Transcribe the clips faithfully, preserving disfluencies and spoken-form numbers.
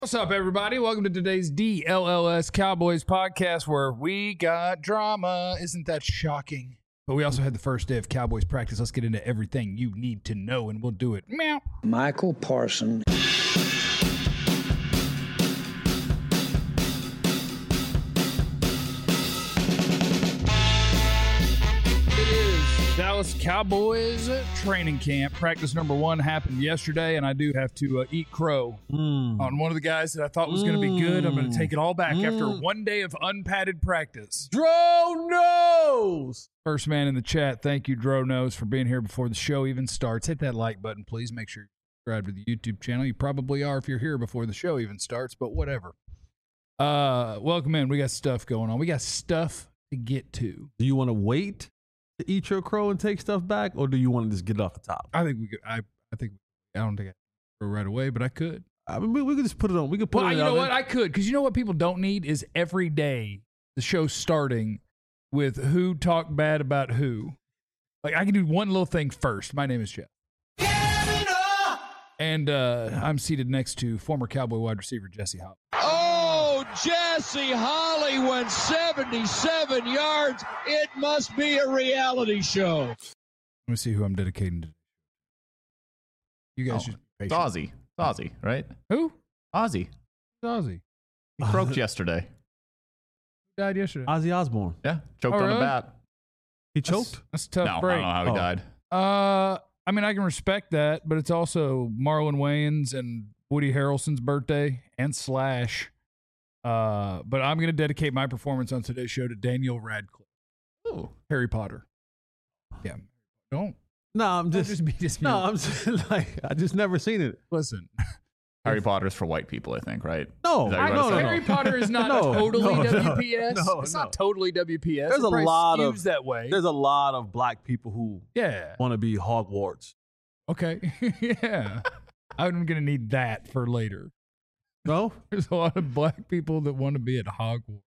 What's up, everybody? Welcome to today's D L L S Cowboys podcast, where we got drama. Isn't that shocking? But we also had the first day of Cowboys practice. Let's get into everything you need to know, and we'll do it. Meow. Michael Parsons. Dallas Cowboys training camp. Practice number one happened yesterday, and I do have to uh, eat crow mm. on one of the guys that I thought was mm. going to be good. I'm going to take it all back mm. after one day of unpadded practice. Dro knows. First man in the chat, thank you, Dro knows, for being here before the show even starts. Hit that like button, please. Make sure you subscribe to the YouTube channel. You probably are if you're here before the show even starts, but whatever. Uh, welcome in. We got stuff going on. We got stuff to get to. Do you want to wait to eat your crow and take stuff back, or do you want to just get it off the top? I think we could. I I think I don't think I could right away, but I could. I mean, we, we could just put it on. We could put well, it. You know what? There. I could, because you know what people don't need is every day the show starting with who talked bad about who. Like, I can do one little thing first. My name is Jeff, and uh, I'm seated next to former Cowboy wide receiver Jesse Holley. Oh, Jesse Holley went seventy-seven yards. It must be a reality show. Let me see who I'm dedicating to. You guys oh, just it's Ozzy. It's Ozzy, right? Who? Ozzy. Ozzy. He croaked yesterday. He died yesterday. Ozzy Osbourne. Yeah, choked oh, on really? the bat. He choked? That's, that's a tough no, break. I don't know how he oh. died. Uh, I mean, I can respect that, but it's also Marlon Wayans and Woody Harrelson's birthday and Slash. Uh, but I'm going to dedicate my performance on today's show to Daniel Radcliffe. Oh, Harry Potter. Yeah. Don't. No, I'm just, just be just no, I'm just like, I just never seen it. Listen. Harry Potter's for white people, I think, right? No, Is that I what know you're Harry saying? Potter is not No, totally no, no, W P S. no, it's no. not totally W P S. There's It a probably lot skews of that way. There's a lot of black people who yeah want to be Hogwarts. Okay. Yeah. I'm going to need that for later. No, There's a lot of black people that want to be at Hogwarts.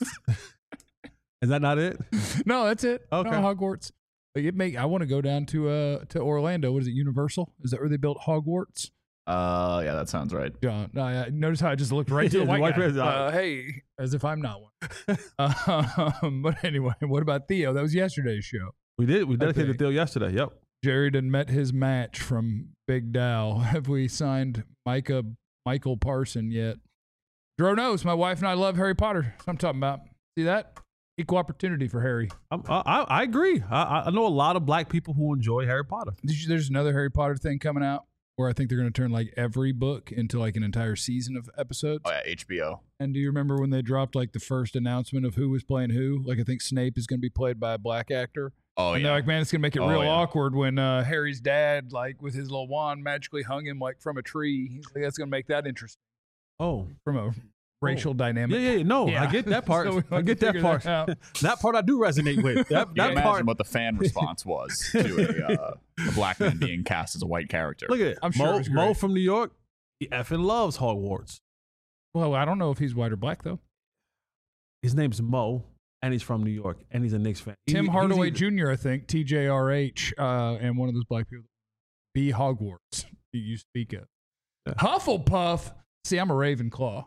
is that not it? No, that's it. Okay. No, Hogwarts. But it make I want to go down to uh to Orlando. What is it? Universal? Is that where they built Hogwarts? Uh, yeah, that sounds right. John, no, I, notice how I just looked right to the Yeah, white, white guy. person. Uh, hey, as if I'm not one. um, but anyway, what about Theo? That was yesterday's show. We did. We dedicated think. Theo yesterday. Yep. Jared had met his match from Big Dow. Have we signed Micah Michael Parson yet? Dro knows. My wife and I love Harry Potter. That's what I'm talking about. See that? Equal opportunity for Harry. I'm, I I agree. I I know a lot of black people who enjoy Harry Potter. Did you, there's another Harry Potter thing coming out where I think they're going to turn like every book into like an entire season of episodes. Oh, yeah, H B O. And do you remember when they dropped like the first announcement of who was playing who? Like I think Snape is going to be played by a black actor. Oh, and yeah. they're like, man, it's going to make it Oh, real yeah. awkward when uh, Harry's dad, like with his little wand, magically hung him like from a tree. He's like, that's going to make that interesting Oh. from a racial dynamic. Yeah, yeah, no, Yeah. I get that part. So we I have get to that figure part. that That, out. part I do resonate with. That, You that can imagine part. what the fan response was to a, uh, a black man being cast as a white character. Look at it. I'm sure it Mo, was Mo great. from New York. He effing loves Hogwarts. Well, I don't know if he's white or black though. His name's Mo, and he's from New York, and he's a Knicks fan. Tim He- he's Hardaway either- Junior, I think, T J R H, uh, and one of those black people. Be Hogwarts that you speak of. Yeah. Hufflepuff. See, I'm a Ravenclaw.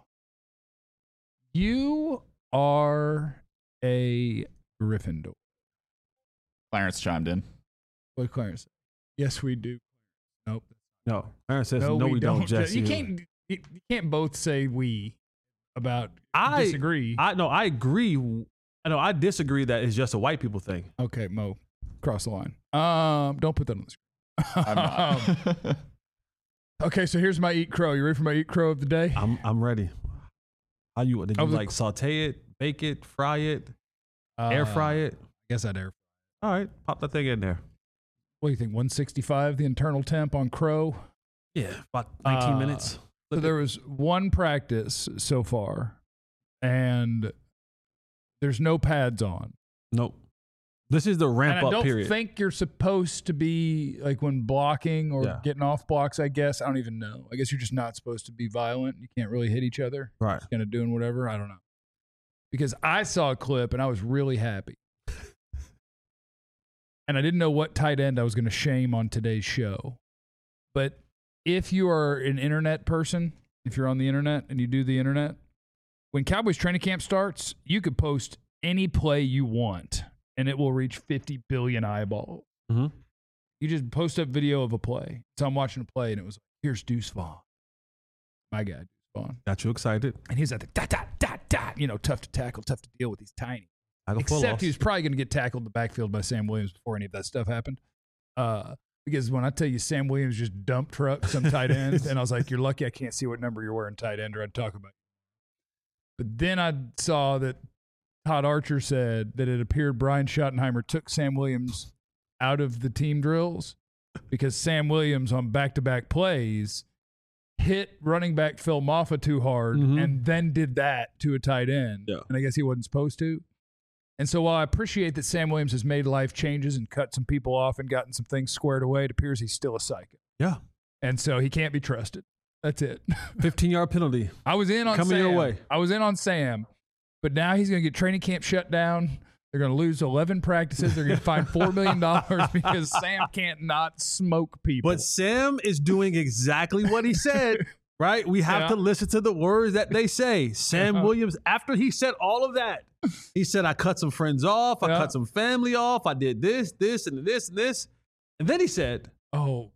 You are a Gryffindor. Clarence chimed in. What did Clarence say? Yes, we do. Nope. No, Aaron says no, we, don't, Jesse. You can't. You, you can't both say we about. I disagree. I no, I agree. I know I disagree that it's just a white people thing. okay, Mo, cross the line. Um, don't put that on the screen. I'm not. Okay, so here's my eat crow. You ready for my eat crow of the day? I'm I'm ready. How you did you Of the- like saute it, bake it, fry it, Uh, air fry it? I guess I'd air. All right, pop that thing in there. What do you think? one sixty-five, the internal temp on crow. Yeah, about nineteen Uh, minutes. So there was one practice so far, and there's no pads on. Nope. This is the ramp and I up don't period. think you're supposed to be like when blocking or Yeah. getting off blocks. I guess I don't even know. I guess you're just not supposed to be violent. You can't really hit each other. right. Just kind of doing whatever. I don't know. Because I saw a clip and I was really happy, and I didn't know what tight end I was going to shame on today's show. But if you are an internet person, if you're on the internet and you do the internet, when Cowboys training camp starts, you could post any play you want, and it will reach fifty billion eyeballs. Mm-hmm. You just post up video of a play. So I'm watching a play, and it was like, here's Deuce Vaughn. My guy, Deuce Vaughn. Got you excited. And he's like, dot, dot, dot, dot. You know, tough to tackle, tough to deal with. He's tiny. Except he was probably going to get tackled in the backfield by Sam Williams before any of that stuff happened. Uh, because when I tell you Sam Williams just dump trucked some tight ends, and I was like, you're lucky I can't see what number you're wearing tight end, or I'd talk about it. But then I saw that Todd Archer said that it appeared Brian Schottenheimer took Sam Williams out of the team drills because Sam Williams on back-to-back plays hit running back Phil Maffa too hard mm-hmm. and then did that to a tight end. Yeah. And I guess he wasn't supposed to. And so while I appreciate that Sam Williams has made life changes and cut some people off and gotten some things squared away, it appears he's still a psycho. Yeah. And so he can't be trusted. That's it. fifteen-yard penalty. I was in on Coming Sam. your way. I was in on Sam. But now he's going to get training camp shut down. They're going to lose eleven practices. They're going to find four million dollars because Sam can't not smoke people. But Sam is doing exactly what he said, right? We have Yeah. to listen to the words that they say. Sam Yeah. Williams, after he said all of that, he said, I cut some friends off. I Yeah. cut some family off. I did this, this, and this, and this. And then he said, oh,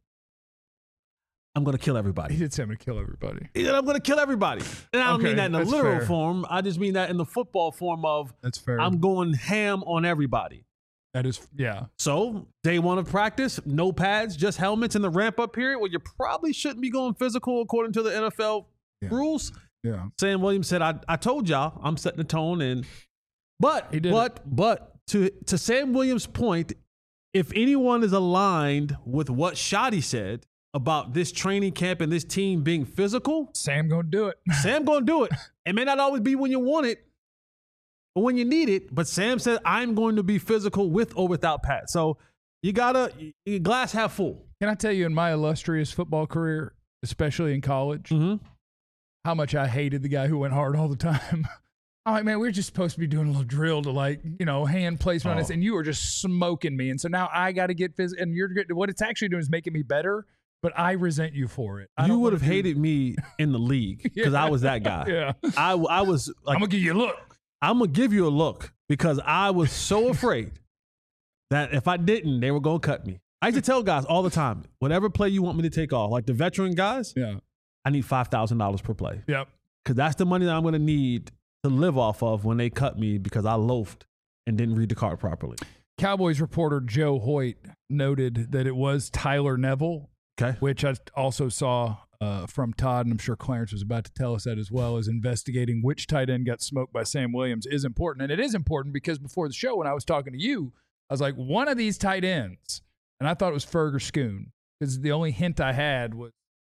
I'm going to kill he everybody. did say I'm going to kill everybody. He said, I'm going to kill everybody. And I don't Okay, mean that in a that's literal fair. form. I just mean that in the football form of That's fair. I'm going ham on everybody. that is, yeah. So, day one of practice, no pads, just helmets in the ramp-up period where you probably shouldn't be going physical according to the N F L Yeah. rules. Yeah. Sam Williams said, I, I told y'all I'm setting the tone. And but, He did but, but to, to Sam Williams' point, if anyone is aligned with what Shotty said about this training camp and this team being physical, Sam going to do it. Sam going to do it. It may not always be when you want it or when you need it, but Sam said, I'm going to be physical with or without Pat. So you got to, your glass half full. Can I tell you, in my illustrious football career, especially in college, Mm-hmm. how much I hated the guy who went hard all the time. I'm like, man, we're just supposed to be doing a little drill to, like, you know, hand placement on Oh. this, and you are just smoking me. And so now I got to get physical. And you're what it's actually doing is making me better, but I resent you for it. I You don't would wanna have do- hated me in the league because I was that guy. Yeah. I, I was like, I'm going to give you a look. I'm going to give you a look because I was so afraid that if I didn't, they were going to cut me. I used to tell guys all the time, whatever play you want me to take off, like the veteran guys, Yeah. I need five thousand dollars per play Yep. because that's the money that I'm going to need to live off of when they cut me because I loafed and didn't read the card properly. Cowboys reporter Joe Hoyt noted that it was Tyler Neville, Okay. which I also saw uh, from Todd, and I'm sure Clarence was about to tell us that as well, is investigating which tight end got smoked by Sam Williams is important. And it is important because before the show, when I was talking to you, I was like, one of these tight ends, and I thought it was Ferg or Schoon, because the only hint I had was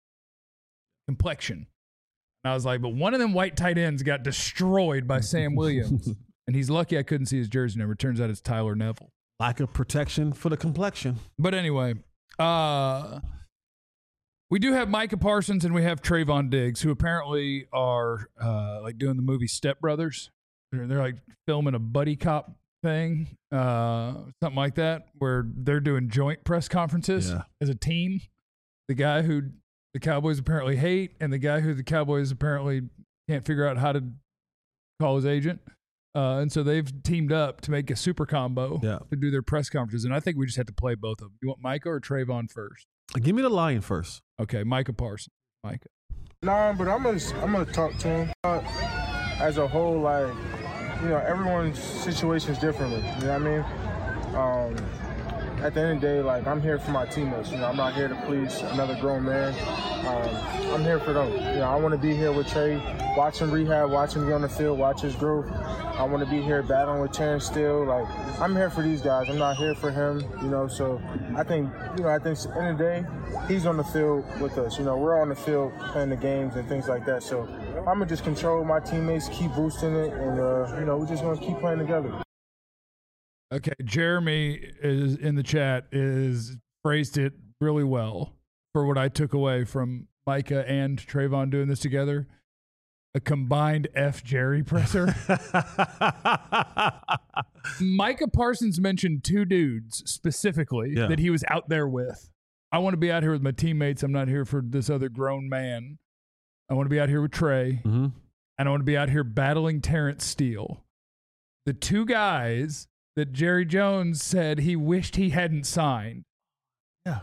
complexion. And I was like, but one of them white tight ends got destroyed by Sam Williams. And he's lucky I couldn't see his jersey number. It turns out it's Tyler Neville. Lack of protection for the complexion. But anyway, uh, we do have Micah Parsons and we have Trayvon Diggs, who apparently are uh, like doing the movie Step Brothers. They're, they're like filming a buddy cop thing, uh, something like that, where they're doing joint press conferences Yeah. as a team. The guy who the Cowboys apparently hate and the guy who the Cowboys apparently can't figure out how to call his agent. Uh, and so they've teamed up to make a super combo Yeah. to do their press conferences. And I think we just have to play both of them. You want Micah or Trayvon first? Give me the lion first. Okay, Micah Parsons. Micah. Nah, but I'm gonna I'm gonna talk to him. Uh, as a whole, like, you know, everyone's situation is differently. You know what I mean? Um, at the end of the day, like, I'm here for my teammates. You know, I'm not here to please another grown man. Um, I'm here for them. You know, I want to be here with Trey, watch him rehab, watch him get on the field, watch his growth. I want to be here battling with Terrence Steele. Like, I'm here for these guys. I'm not here for him, you know. So I think, you know, I think at the end of the day, he's on the field with us. You know, we're on the field playing the games and things like that. So I'm going to just control my teammates, keep boosting it, and, uh, you know, we're just going to keep playing together. Okay, Jeremy is in the chat is phrased it really well for what I took away from Micah and Trayvon doing this together. A combined F Jerry presser. Micah Parsons mentioned two dudes specifically Yeah. that he was out there with. I want to be out here with my teammates. I'm not here for this other grown man. I want to be out here with Trey. Mm-hmm. And I want to be out here battling Terrence Steele. The two guys that Jerry Jones said he wished he hadn't signed. Yeah.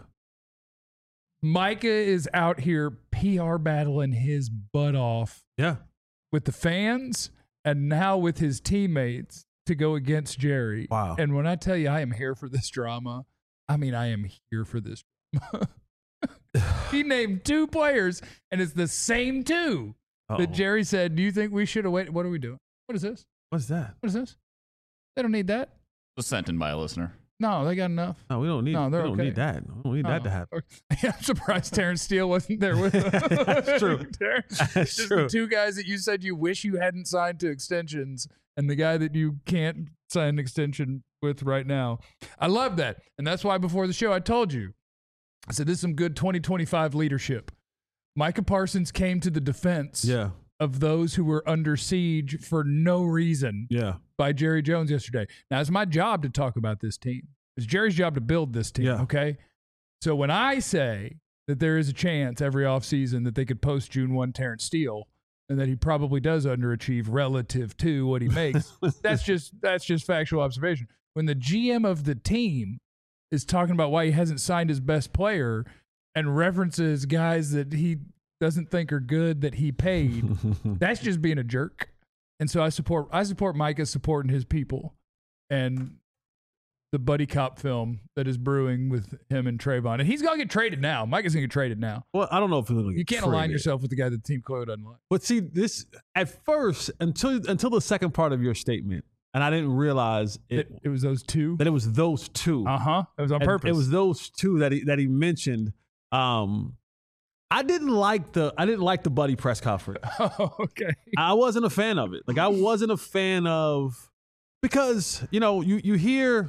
Micah is out here P R battling his butt off. Yeah. With the fans and now with his teammates to go against Jerry. Wow. And when I tell you I am here for this drama, I mean I am here for this drama. He named two players, and it's the same two Uh-oh. that Jerry said, do you think we should have waited? What are we doing? What is this? What's that? What is this? They don't need that. Was sent in by a listener. No, they got enough. No, we don't need. No, they're we don't okay. need that. We don't need no. that to happen. Yeah, I'm surprised Terrence Steele wasn't there with us. That's true. That's Just true. the two guys that you said you wish you hadn't signed to extensions, and the guy that you can't sign an extension with right now. I love that, and that's why before the show I told you, I said this is some good twenty twenty-five leadership. Micah Parsons came to the defense. Yeah. Of those who were under siege for no reason yeah. by Jerry Jones yesterday. Now, it's my job to talk about this team. It's Jerry's job to build this team, yeah. okay? So when I say that there is a chance every offseason that they could post June first Terrence Steele and that he probably does underachieve relative to what he makes, that's just that's just factual observation. When the G M of the team is talking about why he hasn't signed his best player and references guys that he – doesn't think are good that he paid, that's just being a jerk. And so I support I support Micah supporting his people and the buddy cop film that is brewing with him and Trayvon. And he's going to get traded now. Micah's going to get traded now. Well, I don't know if he's going to get You can't traded. align yourself with the guy that the team clearly doesn't like. But see, this, at first, until until the second part of your statement, and I didn't realize it, It, it was those two? that it was those two. Uh-huh. It was on And purpose. It was those two that he that he mentioned. Um, I didn't like the I didn't like the buddy press conference. Oh, okay. I wasn't a fan of it. Like I wasn't a fan of because you know you you hear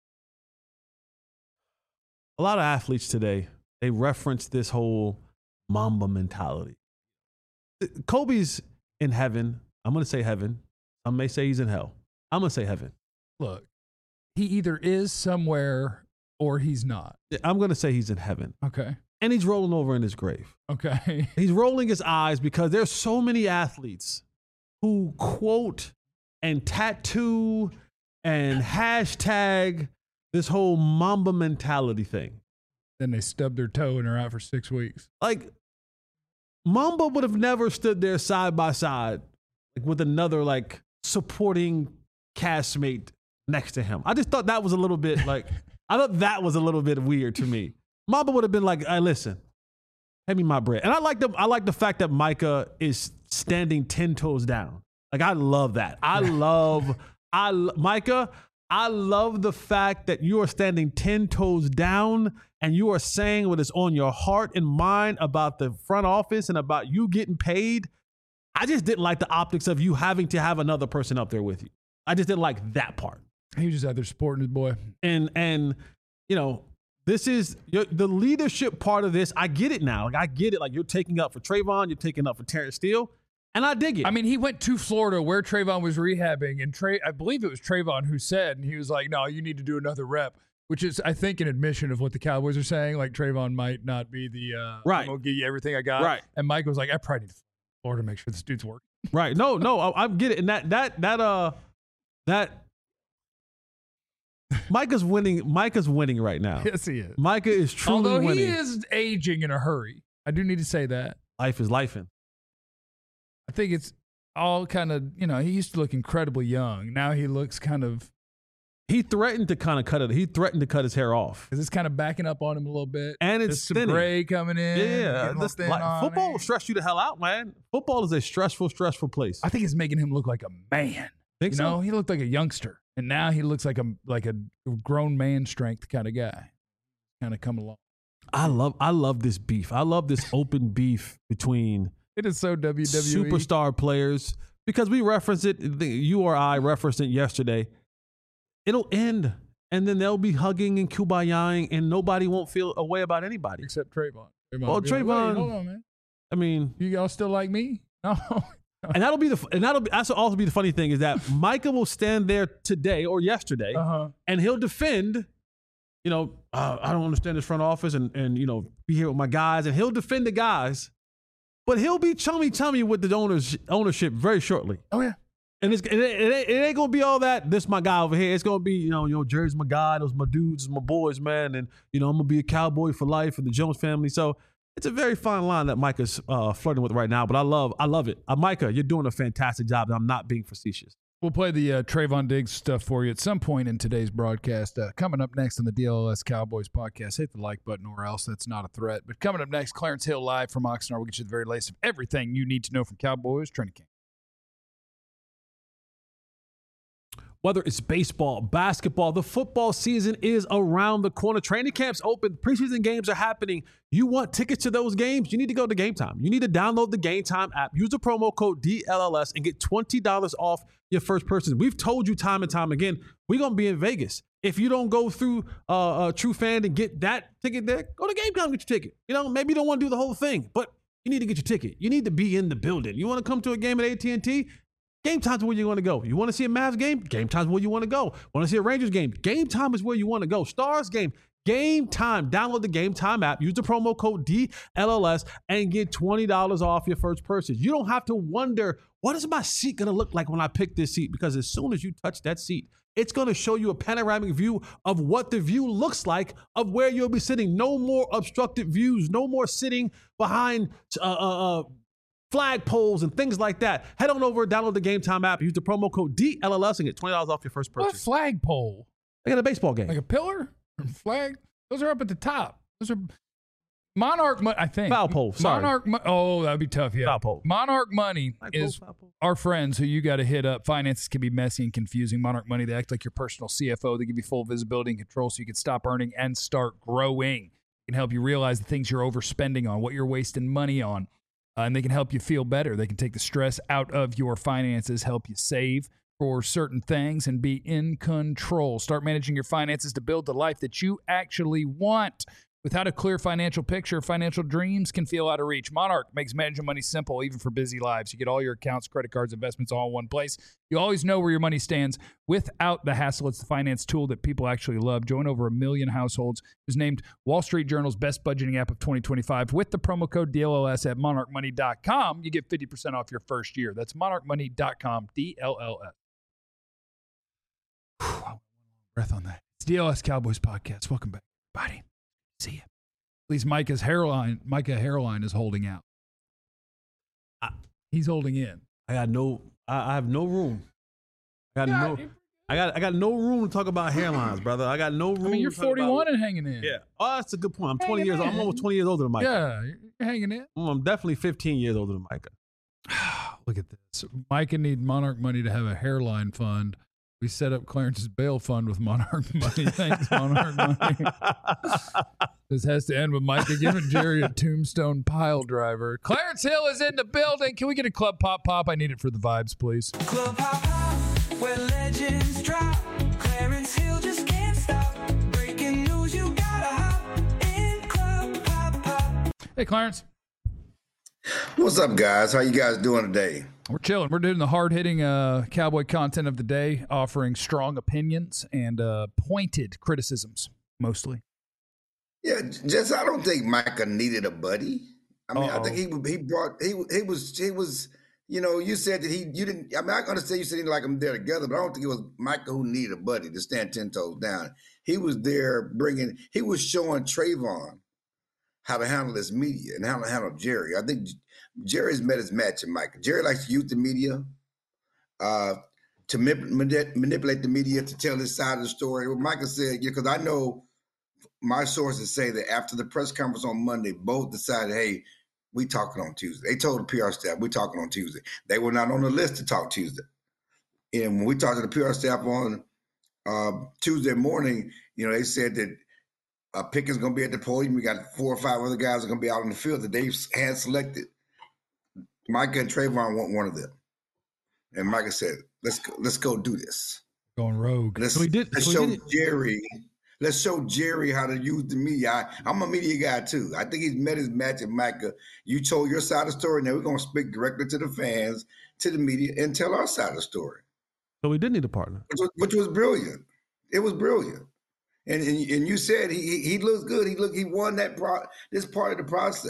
a lot of athletes today. They reference this whole Mamba mentality. Kobe's in heaven. I'm gonna say heaven. Some may say he's in hell. I'm gonna say heaven. Look, he either is somewhere or he's not. I'm gonna say he's in heaven. Okay. And he's rolling over in his grave. Okay. He's rolling his eyes because there's so many athletes who quote and tattoo and hashtag this whole Mamba mentality thing. Then they stub their toe and are out for six weeks. Like, Mamba would have never stood there side by side like, with another, like, supporting castmate next to him. I just thought that was a little bit, like, I thought that was a little bit weird to me. Mamba would have been like, hey, listen, pay me my bread. And I like the I like the fact that Micah is standing ten toes down. Like, I love that. I love, I Micah, I love the fact that you are standing ten toes down and you are saying what is on your heart and mind about the front office and about you getting paid. I just didn't like the optics of you having to have another person up there with you. I just didn't like that part. He was just out there supporting his boy. And, and you know, this is your, the leadership part of this. I get it now. Like I get it. Like you're taking up for Trayvon, you're taking up for Terrence Steele, and I dig it. I mean, he went to Florida where Trayvon was rehabbing, and Trey, I believe it was Trayvon who said, and he was like, "No, you need to do another rep," which is, I think, an admission of what the Cowboys are saying. Like Trayvon might not be the uh, Right. I'm gonna give you everything I got. Right. And Mike was like, "I probably need to Florida to make sure this dude's working." right? No, no, I, I get it. And that that that uh that Micah's winning. Micah's winning right now. Yes, he is. Micah is truly Although winning. he is aging in a hurry, I do need to say that. Life is lifing. I think it's all kind of, you know, he used to look incredibly young. Now he looks kind of, He threatened to kind of cut it. He threatened to cut his hair off. because it's kind of backing up on him a little bit. And There's it's some thinning. gray coming in. Yeah, getting a little this, thin like, on football him. will stress you the hell out, man. Football is a stressful, stressful place. I think it's making him look like a man. Think you so? know, he looked like a youngster, and now he looks like a like a grown man strength kind of guy, kind of coming along. I love, I love this beef. I love this open beef between It is so W W E. superstar players because we referenced it. You or I referenced it yesterday. It'll end, and then they'll be hugging and kumbaya-ing, and nobody won't feel a way about anybody. Except Trayvon. Trayvon Well, will be like, Trayvon- "Wait, hold on, man. I mean, You all still like me? No. and that'll be the, and that'll be, that's also be the funny thing is that Micah will stand there today or yesterday, Uh-huh. and he'll defend. You know, uh, I don't understand this front office, and and you know, be here with my guys, and he'll defend the guys. but he'll be chummy chummy with the owners ownership very shortly. Oh yeah. And it's it, it, it ain't gonna be all that. This my guy over here. It's gonna be, you know, you know, Jerry's my guy. Those my dudes, my boys, man. And you know, I'm gonna be a Cowboy for life and the Jones family. So it's a very fine line that Micah's uh, flirting with right now. But I love, I love it. Uh, Micah, you're doing a fantastic job. And I'm not being facetious. We'll play the uh, Trayvon Diggs stuff for you at some point in today's broadcast. Uh, coming up next on the D L L S Cowboys podcast, hit the like button or else. That's not a threat. But coming up next, Clarence Hill live from Oxnard. We'll get you the very latest of everything you need to know from Cowboys training camp. Whether it's baseball, basketball, the football season is around the corner. Training camps open. Preseason games are happening. You want tickets to those games? You need to go to Game Time. You need to download the Game Time app. Use the promo code D L L S and get twenty dollars off your first person. We've told you time and time again, we're going to be in Vegas. If you don't go through uh, a True Fan and get that ticket there, go to Game Time and get your ticket. You know, maybe you don't want to do the whole thing, but you need to get your ticket. You need to be in the building. You want to come to a game at A T and T? Game Time's where you want to go. You want to see a Mavs game? Game Time's where you want to go. Want to see a Rangers game? Game Time is where you want to go. Stars game? Game Time. Download the Game Time app. Use the promo code D L L S and get twenty dollars off your first purchase. You don't have to wonder, what is my seat going to look like when I pick this seat? Because as soon as you touch that seat, it's going to show you a panoramic view of what the view looks like of where you'll be sitting. No more obstructed views. No more sitting behind uh, uh, uh, flag poles and things like that. Head on over, download the Game Time app, use the promo code D L L S and get twenty dollars off your first What purchase. flagpole? I got a baseball game. Like a pillar? Or flag? Those are up at the top. Those are Monarch money, I think. Foul pole, sorry. Monarch mo- Oh, that'd be tough, yeah. Foul pole. Monarch Money Foul pole, is foul pole. our friends who you got to hit up. Finances can be messy and confusing. Monarch Money, they act like your personal C F O. They give you full visibility and control so you can stop earning and start growing. They can help you realize the things you're overspending on, what you're wasting money on. Uh, and they can help you feel better. They can take the stress out of your finances, help you save for certain things, and be in control. Start managing your finances to build the life that you actually want. Without a clear financial picture, financial dreams can feel out of reach. Monarch makes managing money simple, even for busy lives. You get all your accounts, credit cards, investments all in one place. You always know where your money stands without the hassle. It's the finance tool that people actually love. Join over a million households. It was named Wall Street Journal's best budgeting app of twenty twenty-five. With the promo code D L L S at monarch money dot com, you get fifty percent off your first year. That's monarch money dot com, D L L S. Whew, breath on that. It's D L S Cowboys Podcast. Welcome back, everybody. See you. At least Micah's hairline, Micah hairline is holding out. I, he's holding in. I got no, I, I have no room. I got Yeah, no, I got, I got no room to talk about hairlines, brother. I got no room. I mean, you're to talk about- forty-one and hanging in. Yeah. Oh, that's a good point. I'm twenty Hanging years old. I'm in. almost twenty years older than Micah. Yeah, you're hanging in. I'm definitely fifteen years older than Micah. Look at this. Micah need Monarch Money to have a hairline fund. We set up Clarence's bail fund with Monarch Money. Thanks, Monarch Money. This has to end with Micah giving Jerry a tombstone pile driver. Clarence Hill is in the building. Can we get a club pop pop? I need it for the vibes, please. Club Pop Pop, where legends drop. Clarence Hill just can't stop. Breaking news, you gotta hop in Club Pop Pop. Hey, Clarence. What's up, guys? How you guys doing today? We're chilling. We're doing the hard-hitting uh, cowboy content of the day, offering strong opinions and uh, pointed criticisms, mostly. Yeah, just I don't think Micah needed a buddy. I mean, Uh-oh. I think he he brought he he was he was you know you said that he you didn't. I mean, I understand you said he like them there together, but I don't think it was Micah who needed a buddy to stand ten toes down. He was there bringing. He was showing Trayvon how to handle his media and how to handle Jerry. I think Jerry's met his match in Micah. Jerry likes to use the media uh, to manip- manipulate the media to tell his side of the story. What Micah said, yeah, because I know my sources say that after the press conference on Monday, both decided, hey, we talking on Tuesday. They told the P R staff, we talking on Tuesday. They were not on the list to talk Tuesday. And when we talked to the P R staff on uh, Tuesday morning, you know, they said that uh, Pickett's going to be at the podium. We got four or five other guys that are going to be out in the field that they've hand selected. Micah and Trayvon want one of them. And Micah said, let's go, let's go do this. Going rogue. Let's, So he did- let's so he show did it- Jerry. Let's show Jerry how to use the media. I, I'm a media guy too. I think he's met his match at Micah. You told your side of the story. Now we're going to speak directly to the fans, to the media, and tell our side of the story, So we did need a partner. which was, which was brilliant. It was brilliant. And and, and you said he he, he looks good. He look he won that pro, this part of the process.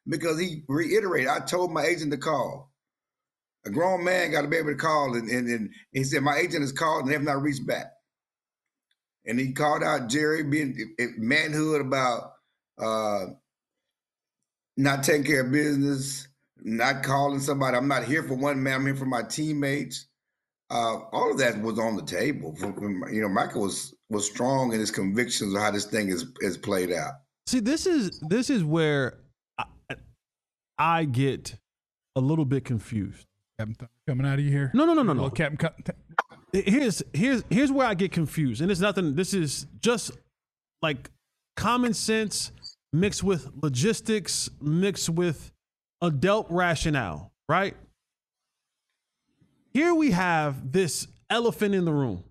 because he reiterated, I told my agent to call. A grown man got to be able to call, and, and, and he said, my agent has called and they have not reached back. And he called out Jerry being manhood about uh, not taking care of business, not calling somebody. I'm not here for one man, I'm here for my teammates. Uh, all of that was on the table. You know, Michael was was strong in his convictions of how this thing is is played out. See, this is this is where I, I get a little bit confused. Captain Thunder coming out of you here. No, no, no, no, Little no. Captain. Co- Here's here's here's where I get confused, and it's nothing. This is just like common sense mixed with logistics, mixed with adult rationale, right? Here we have this elephant in the room.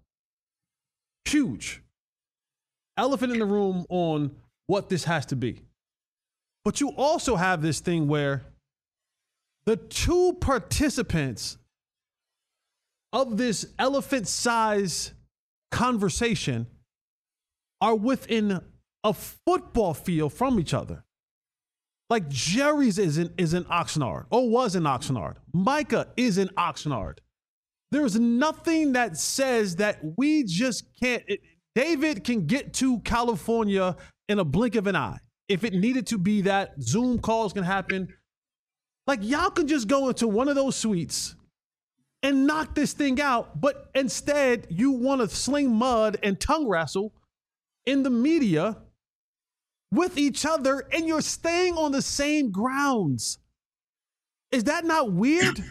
Huge. Elephant in the room on what this has to be. But you also have this thing where the two participants of this elephant size conversation are within a football field from each other. Like Jerry's is in, is in Oxnard, or was in Oxnard. Micah is in Oxnard. There's nothing that says that we just can't. It, David can get to California in a blink of an eye. If it needed to be that, Zoom calls can happen. Like, y'all can just go into one of those suites and knock this thing out. But instead, you want to sling mud and tongue wrestle in the media with each other, and you're staying on the same grounds. Is that not weird?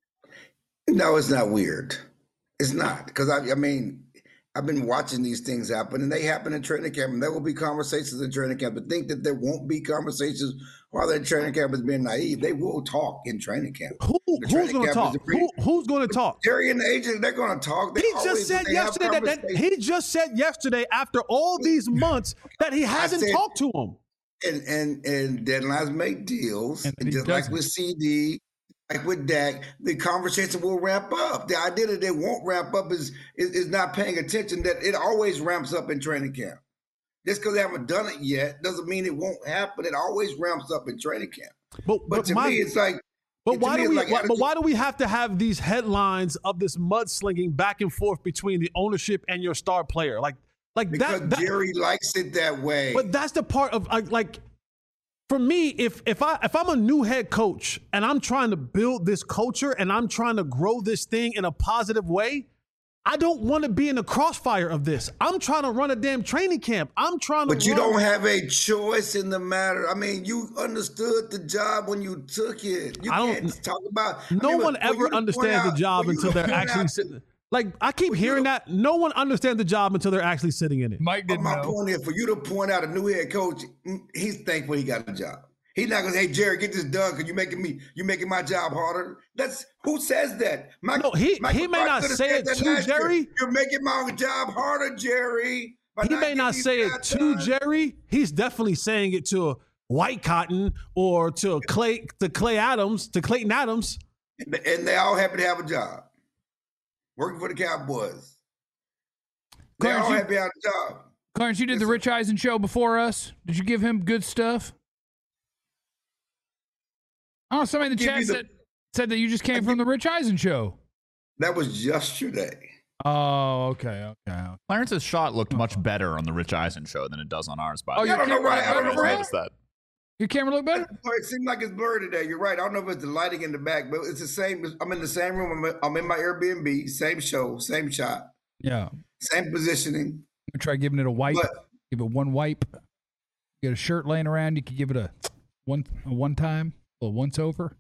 No, it's not weird. It's not. Because, I, I mean, I've been watching these things happen, and they happen in training camp, and there will be conversations in training camp. But think that there won't be conversations while they're in training camp is being naive. They will talk in training camp. Who, who's going to talk? Who, who's going to talk? Jerry and the agent, they're going to talk. They He always, just said they have yesterday that, that he just said yesterday after all these months that he hasn't said- talked to him. And and and deadlines make deals, And and he just like doesn't. with C D, like with Dak, the conversation will ramp up. The idea that they won't ramp up is, is is not paying attention. That it always ramps up in training camp. Just because they haven't done it yet doesn't mean it won't happen. It always ramps up in training camp. But, But but, to my, me, it's like. but to why me, do it's we? like why, but attitude. why do we have to have these headlines of this mudslinging back and forth between the ownership and your star player? Like, like Because that, that. Jerry likes it that way. But that's the part of like, like for me, if if I if I'm a new head coach and I'm trying to build this culture and I'm trying to grow this thing in a positive way, I don't want to be in the crossfire of this. I'm trying to run a damn training camp. I'm trying to. But you run- don't have a choice in the matter. I mean, you understood the job when you took it. You I don't- can't talk about. I No mean, one for ever you to point understands out- the job for you until to they're point actually out- sitting. Like I keep For you hearing to- that. No one understands the job until they're actually sitting in it. Mike But didn't my know. point is, for you to point out a new head coach, mm, he's thankful he got a job. He's not gonna say, "Hey, Jerry, get this done because you're making me, you're making my job harder." That's who says that. Mike, No, he- Michael he may Clark not could have say said it that to last year. Jerry. You're making my job harder, Jerry. by He may getting not these say it guys to done." Jerry. He's definitely saying it to White Cotton or to Clay to Clay Adams to Clayton Adams. And they all happy to have a job, working for the Cowboys. They Clarence, all you- happy to have a job. Clarence, you did Yes, the sir. Rich Eisen show before us. Did you give him good stuff? Oh, somebody in the Give chat you the- said, said that you just came from the Rich Eisen show. That was yesterday. Oh, okay, okay. okay. Clarence's shot looked much better on the Rich Eisen show than it does on ours. By the Oh, way. your I don't know camera why- look I don't know better, why- Brad? Noticed that. Your camera look better? It seemed like it's blurry today. You're right. I don't know if it's the lighting in the back, but it's the same. I'm in the same room. I'm, I'm in my Airbnb. Same show, same shot, Yeah. same positioning. I'm try giving it a wipe. But Give it one wipe. You got a shirt laying around. You could give it a one a one time, a little once over.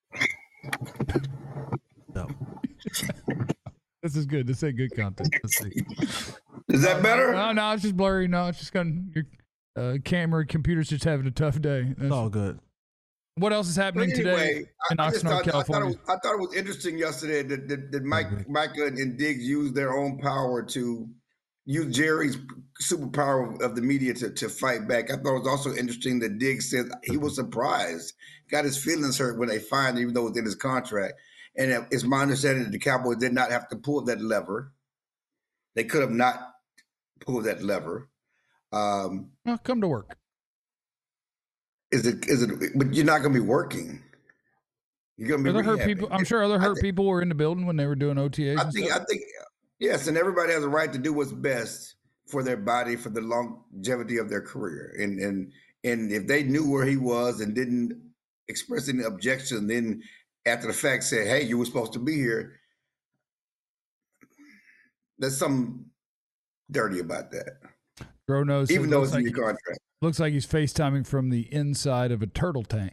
No. This is good. This ain't good content. Let's see. is that better? No, no, it's just blurry. No, it's just going. Your uh, camera, computer's just having a tough day. It's That's- all good. what else is But happening anyway, today in I, I, just Oxnard, thought, I, thought it California? was, I thought it was interesting yesterday that, that, that Mike, Micah and Diggs used their own power to use Jerry's superpower of the media to, to fight back. I thought it was also interesting that Diggs said he was surprised, got his feelings hurt when they fined him, even though it was in his contract. And it- it's my understanding that the Cowboys did not have to pull that lever. They could have not pulled that lever. Um, Well, come to work. Is it? Is it? But you're not going to be working. You're going to be Other hurt rehabbing. people. I'm sure other hurt think- people were in the building when they were doing O T As. I and think. stuff. I think. Yes, and everybody has a right to do what's best for their body, for the longevity of their career. And and and if they knew where he was and didn't express any objection, then after the fact said, "Hey, you were supposed to be here," there's something dirty about that. Dro knows. Even it though looks it's in like, your contract. looks like he's FaceTiming from the inside of a turtle tank.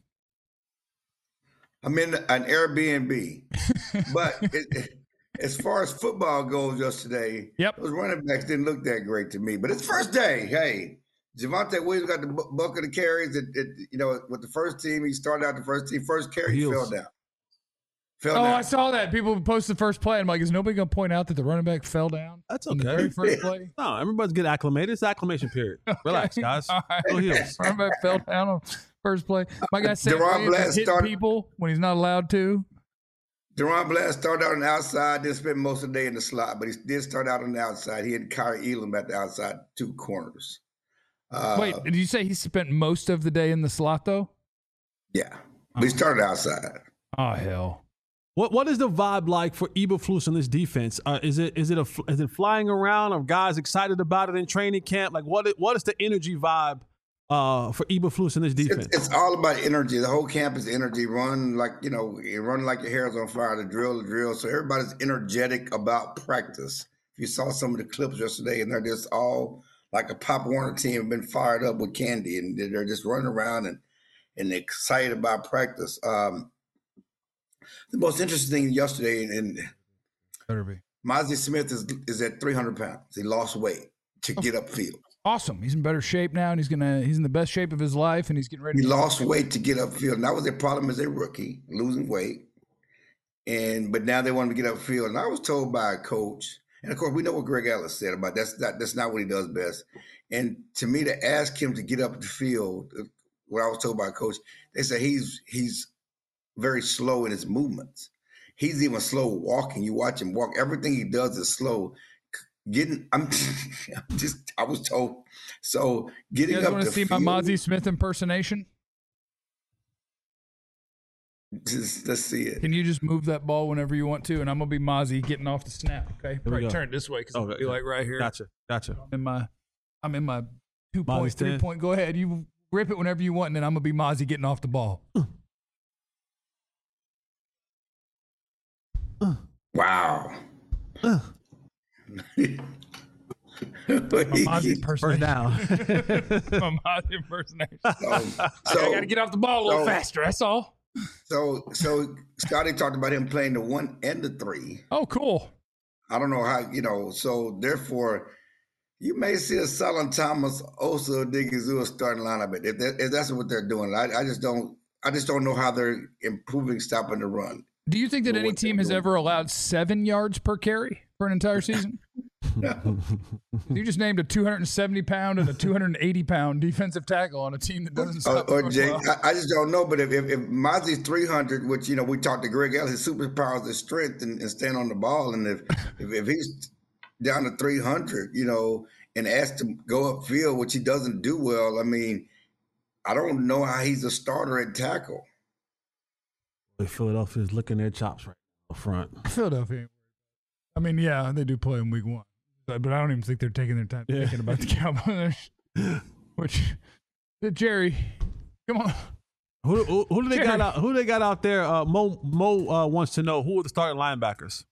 I'm in an Airbnb, but it, it, as far as football goes, yesterday, Yep. those running backs didn't look that great to me. But it's first day. Hey, Javonte Williams got the bu- bulk of the carries. It, it, you know, with the first team, he started out the first team. First carry, he Heels. fell down. Fell Oh, down. I saw that. People posted the first play. I'm like, is nobody going to point out that the running back fell down? That's in the okay. very first play. No, everybody's get acclimated. It's acclimation period. Relax, guys. All right. Go heels. Running back fell down on first play. My guy said Deron Blatt hitting started- people when he's not allowed to. Deron Blatt started out on the outside, didn't spend most of the day in the slot, but he did start out on the outside. He had Kyrie Elam at the outside two corners. Uh, Wait, did you say he spent most of the day in the slot though? Yeah, but he started outside. Oh hell. What what is the vibe like for Eberflus in this defense? Uh, is it is it a is it flying around? Are guys excited about it in training camp? Like what i- what is the energy vibe uh, for Eberflus in this defense? It's, it's all about energy. The whole camp is energy. Run like, you know, you run like your hair's on fire. The drill, the drill. So everybody's energetic about practice. If you saw some of the clips yesterday, and they're just all like a Pop Warner team, have been fired up with candy, and they're just running around and and excited about practice. Um, the most interesting thing yesterday, and Better be. Mozzie Smith is is at three hundred pounds. He lost weight to get upfield. Awesome. He's in better shape now, and he's gonna he's in the best shape of his life, and he's getting ready. He to lost weight to get upfield, and that was their problem as a rookie, losing weight. And but now they want him to get upfield. And I was told by a coach, and of course we know what Greg Ellis said about that's not that's not what he does best. And to me, to ask him to get up the field, what I was told by a coach, they said he's he's very slow in his movements. He's even slow walking. You watch him walk; everything he does is slow. Getting, I'm, I'm just, I was told. So getting You guys up want the to see field, my Mozzie Smith impersonation? just, let's see it. Can you just move that ball whenever you want to, and I'm gonna be Mozzie getting off the snap. Okay, we right. go. Turn it this way because it'll Okay. be like right here. Gotcha, gotcha. I'm in my, I'm in my two point, Mozzie's three ten. point. Go ahead, you rip it whenever you want, and then I'm gonna be Mozzie getting off the ball. Wow. Uh. My Mozzie First impersonation. down. My Mozzie impersonation. so, I got to get off the ball a little so- faster. That's all. so, so Scotty talked about him playing the one and the three. Oh, cool. I don't know how, you know, so therefore, you may see a Solon Thomas, Osa Odigizua starting lineup. If, that, if that's what they're doing, I, I just don't, I just don't know how they're improving stopping the run. Do you think that Well, any what team they're has doing. ever allowed seven yards per carry for an entire season? You just named a two hundred seventy pound and a two hundred eighty pound defensive tackle on a team that doesn't Or, stop. or throwing Jay, well. I, I just don't know. But if if, if Mozzie's three hundred, which you know we talked to Greg Ellis, his superpowers is strength and, and stand on the ball, and if if, if he's down to three hundred, you know, and asked to go upfield, which he doesn't do well, I mean, I don't know how he's a starter at tackle. Philadelphia's licking their chops right up front. Philadelphia. I mean, yeah, they do play in week one, but, but I don't even think they're taking their time Yeah. thinking about the Cowboys. Which, Jerry, come on. Who, who, who do they got Jerry. out? Who they got out there? Uh, Mo Mo uh, wants to know who are the starting linebackers.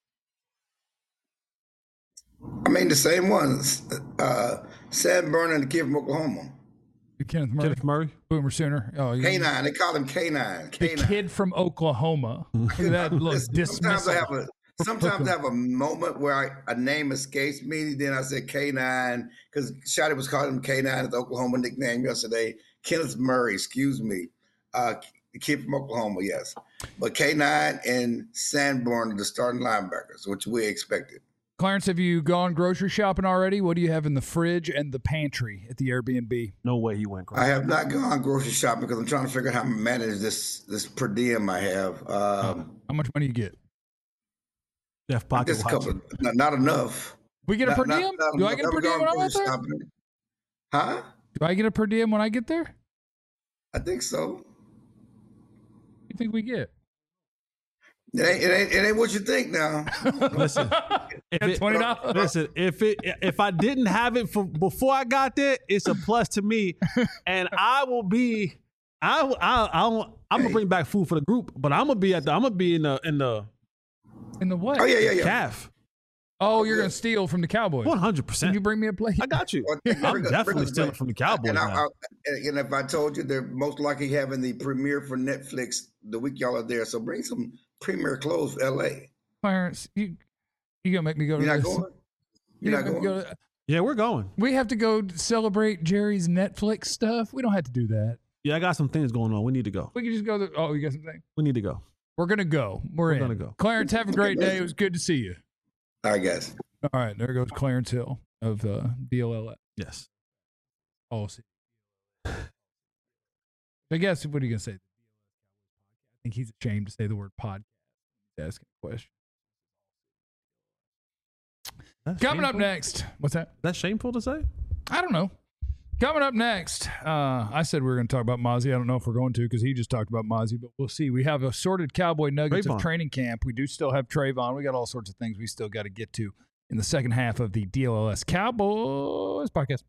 I mean, the same ones. Uh, Sam Burnham and the kid from Oklahoma. Kenneth Murray, Kenneth Murray. Boomer Sooner. Oh, you- K nine. They call him K nine. the K nine. kid from Oklahoma. Look at that look Listen, sometimes I have dismissal. a sometimes I have a moment where I, a name escapes me. Then I say K nine because Shotty was calling him K nine, his Oklahoma nickname yesterday. Kenneth Murray, excuse me, uh, the kid from Oklahoma, yes. But K nine and Sanborn are the starting linebackers, which we expected. Clarence, have you gone grocery shopping already? What do you have in the fridge and the pantry at the Airbnb? No way he went. I have not gone grocery shopping because I'm trying to figure out how to manage this this per diem I have. Um, How much money you get? Jeff Pocket just a couple, watching. not, not enough. We get a Not- per not- diem? not Do I enough. get a per Never diem gone when I'm out grocery there? shopping. Huh? Do I get a per diem when I get there? I think so. You think we get? It ain't, it ain't, it ain't what you think now. Listen, if it, twenty dollars. listen, if it if I didn't have it for before I got there, it's a plus to me, and I will be. I I I don't, I'm gonna bring back food for the group, but I'm gonna be at the. I'm gonna be in the in the In the what? Oh yeah, yeah, yeah. calf. Oh, you're gonna steal from the Cowboys. One hundred Can percent. you bring me a plate? I got you. Well, I'm bring us- definitely bring us stealing back. from the Cowboys And, I, now. I, and if I told you they're most likely having the premiere for Netflix the week y'all are there, so bring some premiere clothes for L A. Clarence, you you gonna make me go to You're not this? going. You You're not gonna make me going. go to- Yeah, we're going. we have to go celebrate Jerry's Netflix stuff. We don't have to do that. Yeah, I got some things going on. We need to go. We can just go. To, oh, you got something? We need to go. We're gonna go. We're, We're in. gonna go. Clarence, have a great day. It was good to see you. I guess. All right, there goes Clarence Hill of uh, D L L S. Yes. Oh, see. I guess what are you gonna say? I think he's ashamed to say the word podcast. He's asking a question. That's Coming up shameful? next, what's that? That's shameful to say. I don't know. Coming up next, uh, I said we were going to talk about Mozzie. I don't know if we're going to because he just talked about Mozzie, but we'll see. We have assorted Cowboy Nuggets Trayvon. of training camp. We do still have Trayvon. We got all sorts of things we still got to get to in the second half of the D L L S Cowboys podcast.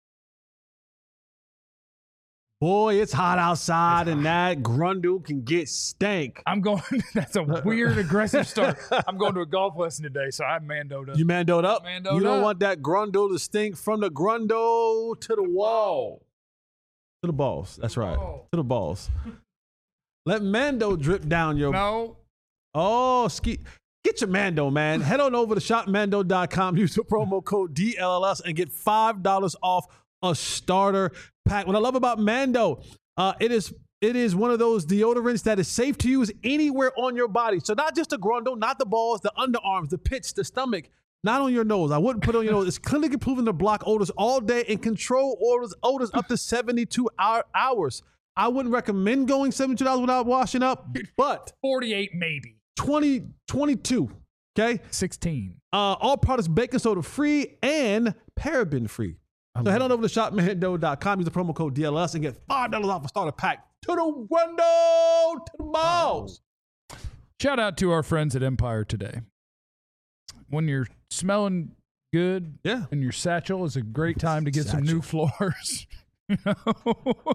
Boy, it's hot outside, and that grundle can get stank. I'm going. That's a weird, aggressive start. I'm going to a golf lesson today, so I'm mandoed up. You mandoed up. Mandoed you don't up. want that grundle to stink from the grundle to the wall. To the balls. That's right. Whoa. To the balls. Let Mando drip down your. No. Oh, ski. Get your Mando, man. Head on over to shop mando dot com. Use the promo code D L L S and get five dollars off a starter pack. What I love about Mando, uh, it is it is one of those deodorants that is safe to use anywhere on your body. So not just the grundle, not the balls, the underarms, the pits, the stomach, not on your nose. I wouldn't put it on your nose. It's clinically proven to block odors all day and control odors, odors up to seventy-two hour, hours. I wouldn't recommend going seventy-two hours without washing up, but forty-eight maybe. twenty, twenty-two, okay? sixteen. Uh, all products baking soda free and paraben free. So head on over to shop mando dot com, use the promo code D L S and get five dollars off a starter pack. To the window, to the balls. Shout out to our friends at Empire Today. When you're smelling good, Yeah. and your satchel is a great time to get some new floors. You know?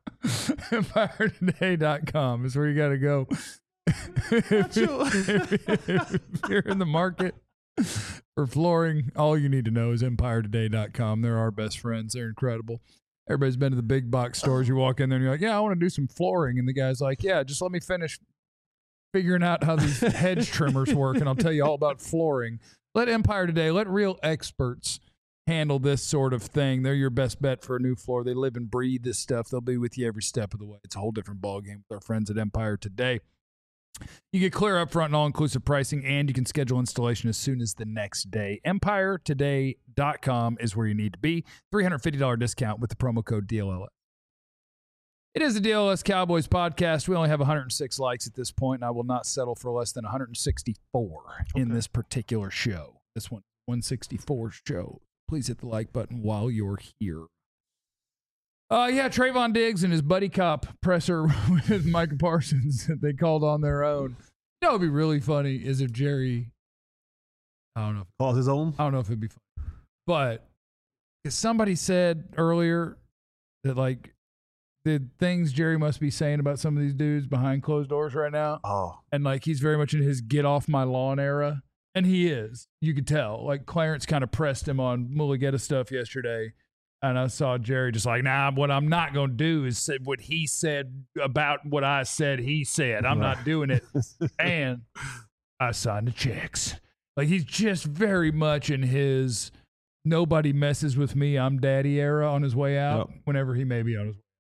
empire today dot com is where you got to go. if, you, if you're in the market for flooring, all you need to know is empire today dot com. They're our best friends. They're incredible. Everybody's been to the big box stores. You walk in there and you're like, yeah, I want to do some flooring. And the guy's like, yeah, just let me finish figuring out how these hedge trimmers work, and I'll tell you all about flooring. Let Empire Today, let real experts handle this sort of thing. They're your best bet for a new floor. They live and breathe this stuff. They'll be with you every step of the way. It's a whole different ballgame with our friends at Empire Today. You get clear upfront and all-inclusive pricing, and you can schedule installation as soon as the next day. empire today dot com is where you need to be. three hundred fifty dollars discount with the promo code D L L S. It is the D L L S Cowboys podcast. We only have one hundred six likes at this point, and I will not settle for less than one hundred sixty-four in Okay. this particular show. This one, one sixty-four show. Please hit the like button while you're here. Uh, yeah, Trayvon Diggs and his buddy cop presser with Micah Parsons that they called on their own. You know, it'd be really funny is if Jerry, I don't know, Calls his own. I don't know if it'd be funny, but 'cause somebody said earlier that like the things Jerry must be saying about some of these dudes behind closed doors right now, Oh. and like he's very much in his get off my lawn era, and he is. You could tell. Like Clarence kind of pressed him on Mulligetta stuff yesterday. And I saw Jerry just like, nah, what I'm not going to do is say what he said about what I said he said. I'm not doing it. And I signed the checks. Like he's just very much in his nobody messes with me, I'm daddy era on his way out, Yep. whenever he may be on his way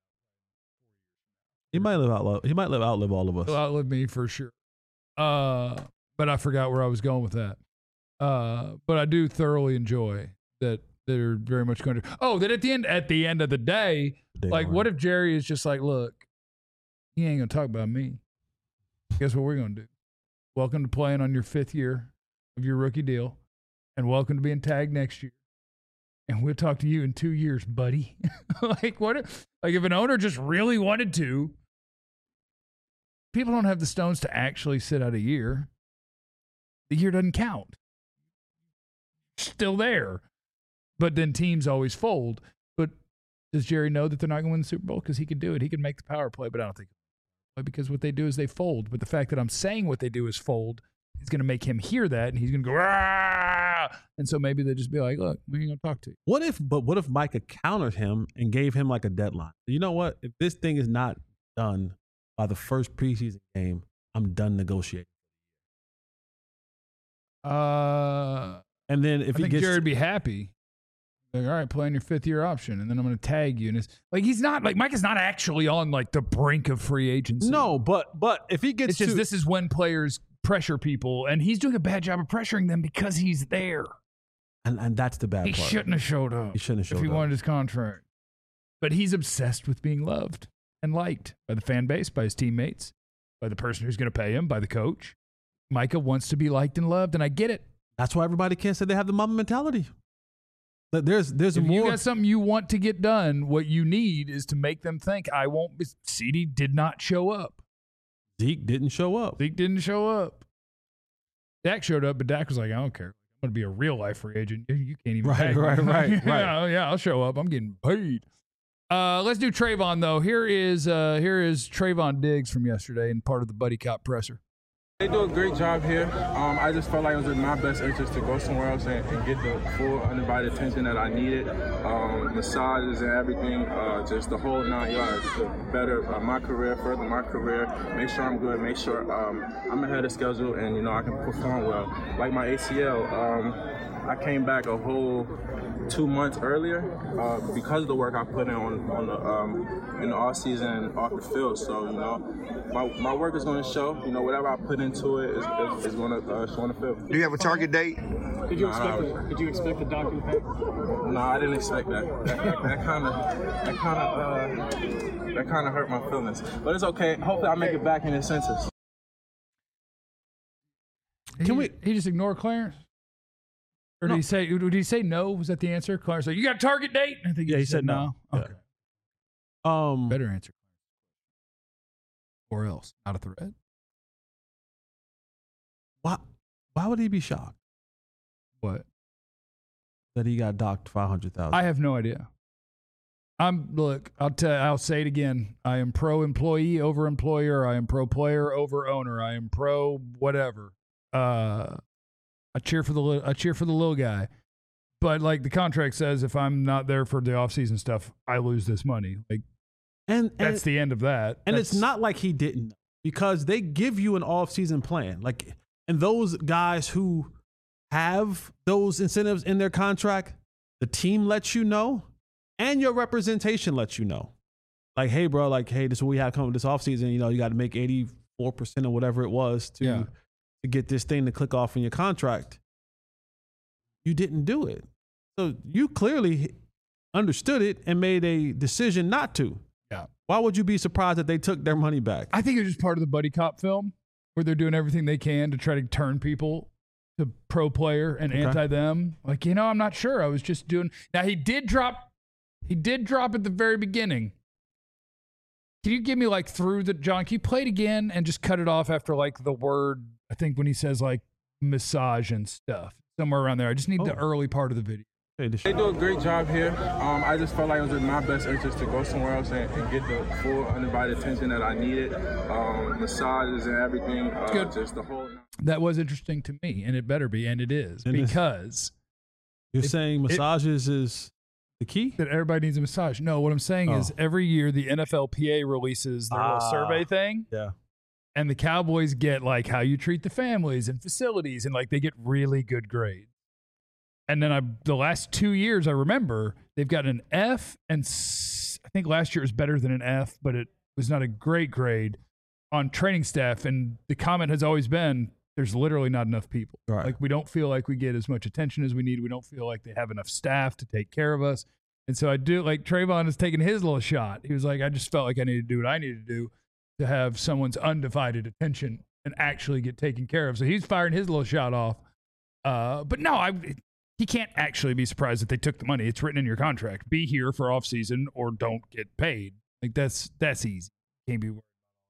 He might live out. He might live outlive all of us. He'll outlive me for sure. Uh, but I forgot where I was going with that. Uh, but I do thoroughly enjoy that they're very much going to. Oh, that at the end, at the end of the day, They like, are. what if Jerry is just like, look, he ain't gonna talk about me. Guess what we're gonna do? Welcome to playing on your fifth year of your rookie deal, and welcome to being tagged next year. and we'll talk to you in two years, buddy. like what? If, like if an owner just really wanted to, people don't have the stones to actually sit out a year. The year doesn't count. Still there. But then teams always fold. But does Jerry know that they're not going to win the Super Bowl? Because he could do it. He could make the power play, but I don't think because what they do is they fold. But the fact that I'm saying what they do is fold is going to make him hear that, and he's going to go, ah! And so maybe they just be like, look, we ain't going to talk to you. What if, but what if Micah countered him and gave him like a deadline? You know what? If this thing is not done by the first preseason game, I'm done negotiating. Uh, and then if I he think gets Jared would be happy. Like, all right, play on your fifth year option, and then I'm going to tag you. And it's like he's not like Mike is not actually on like the brink of free agency. No, but but if he gets it's just to, this is when players pressure people, and he's doing a bad job of pressuring them because he's there. And and that's the bad he part. He shouldn't have showed up. He shouldn't have showed if he up. wanted his contract. But he's obsessed with being loved and liked by the fan base, by his teammates, by the person who's going to pay him, by the coach. Micah wants to be liked and loved, and I get it. That's why everybody can't say they have the Mamba mentality. But there's there's if more. you got something you want to get done, what you need is to make them think, I won't be. C D did not show up. Zeke didn't show up. Zeke didn't show up. Dak showed up, but Dak was like, I don't care. I'm going to be a real life free agent. You can't even Right, pay me. right, right, right. yeah, yeah, I'll show up. I'm getting paid. Uh, let's do Trayvon, though. Here is uh, here is Trayvon Diggs from yesterday and part of the Buddy Cop presser. They do a great job here. Um, I just felt like it was in my best interest to go somewhere else and, and get the full undivided attention that I needed. Um, massages and everything, uh, just the whole nine yards to better uh, my career, further my career, make sure I'm good, make sure um, I'm ahead of schedule and, you know, I can perform well. Like my A C L, um, I came back a whole two months earlier uh, because of the work I put in on, on the um, in the off season and off the field. So you know, my, my work is going to show. You know, whatever I put into it is, is, is going to uh, show on the field. Do you have a target date? Did you Nah, expect? I- The, did you expect the doctor to pay? No, I didn't expect that. That kind of that kind of uh, that kind of hurt my feelings. But it's okay. Hopefully, I make it back in his senses. Can he, we? He just ignore Clarence? Or did No. he say? Did he say no? Was that the answer? Clarence said, "You got a target date?" I think Yeah, he said no. Yeah. Okay, Um, better answer. Or else, not a threat. why why would he be shocked What? that he got docked five hundred thousand? I have no idea. I'm look. I'll tell. I'll say it again. I am pro employee over employer. I am pro player over owner. I am pro whatever. Uh, I cheer for the li- I cheer for the little guy. But like the contract says, if I'm not there for the offseason stuff, I lose this money. Like and, and that's the end of that. And That's- it's not like he didn't, because they give you an off-season plan. Like, and those guys who have those incentives in their contract, the team lets you know, and your representation lets you know. Like, hey, bro, like, hey, this is what we have coming this offseason. You know, you got to make eighty-four percent or whatever it was to, Yeah. to get this thing to click off in your contract. You didn't do it. So you clearly understood it and made a decision not to. Yeah. Why would you be surprised that they took their money back? I think it's just part of the buddy cop film where they're doing everything they can to try to turn people to pro player and Okay. anti them. Like, you know, I'm not sure. I was just doing. Now he did drop. He did drop at the very beginning. Can you give me like through the John? Can you play it again and just cut it off after like the word? I think when he says like massage and stuff somewhere around there. I just need the Oh. early part of the video. Hey, this- They do a great job here. Um, I just felt like it was in my best interest to go somewhere else and, and get the full undivided attention that I needed. Um, massages and everything. Uh, Good. Just the whole. That was interesting to me, and it better be, and it is It is. because You're it- saying massages is the key? that everybody needs a massage. No, what I'm saying is Oh. every year the N F L P A releases their little Ah. survey thing, Yeah. and the Cowboys get like how you treat the families and facilities, and like they get really good grades. And then I, the last two years, I remember they've got an F, and s- I think last year was better than an F, but it was not a great grade on training staff. And the comment has always been, there's literally not enough people. Right. Like we don't feel like we get as much attention as we need. We don't feel like they have enough staff to take care of us. And so I do like Trayvon has taken his little shot. He was like, I just felt like I needed to do what I needed to do to have someone's undivided attention and actually get taken care of. So he's firing his little shot off. Uh, but no, I he can't actually be surprised that they took the money. It's written in your contract. Be here for off season or don't get paid. Like that's that's easy. Can't be worried.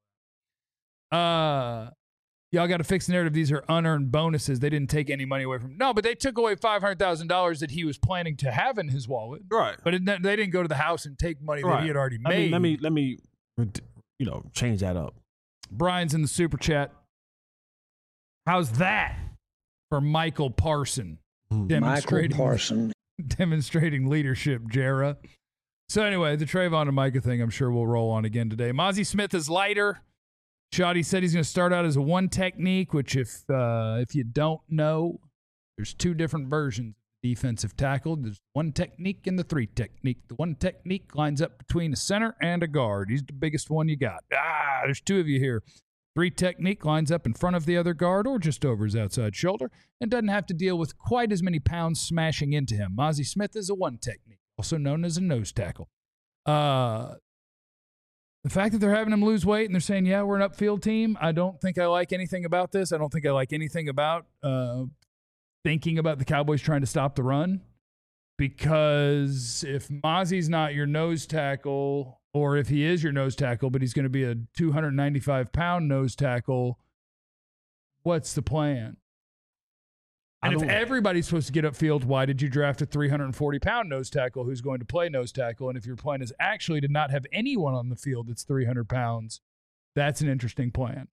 Uh, y'all got to fix the narrative. These are unearned bonuses. They didn't take any money away from. No, but they took away five hundred thousand dollars that he was planning to have in his wallet. Right. But it, they didn't go to the house and take money Right. that he had already I made. mean, let me let me you know change that up. Brian's in the super chat. How's that for Michael Parson? Demonstrating, Michael Parson. demonstrating leadership, Jara. So anyway, the Trayvon and Micah thing, I'm sure we'll roll on again today. Mozzie Smith is lighter. Shoddy said he's going to start out as a one technique, which if uh, if you don't know, there's two different versions of defensive tackle. There's one technique and the three technique. The one technique lines up between a center and a guard. He's the biggest one you got. Ah, there's two of you here. Three technique lines up in front of the other guard or just over his outside shoulder and doesn't have to deal with quite as many pounds smashing into him. Mozzie Smith is a one technique, also known as a nose tackle. Uh, the fact that they're having him lose weight and they're saying, yeah, we're an upfield team, I don't think I like anything about this. I don't think I like anything about uh, thinking about the Cowboys trying to stop the run, because if Mozzie's not your nose tackle, or if he is your nose tackle, but he's going to be a two hundred ninety-five pound nose tackle, what's the plan? And if everybody's supposed to get upfield, why did you draft a three hundred forty pound nose tackle who's going to play nose tackle? And if your plan is actually to not have anyone on the field that's three hundred pounds, that's an interesting plan.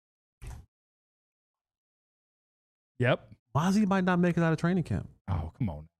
Yep. Mozzie might not make it out of training camp. Oh, come on.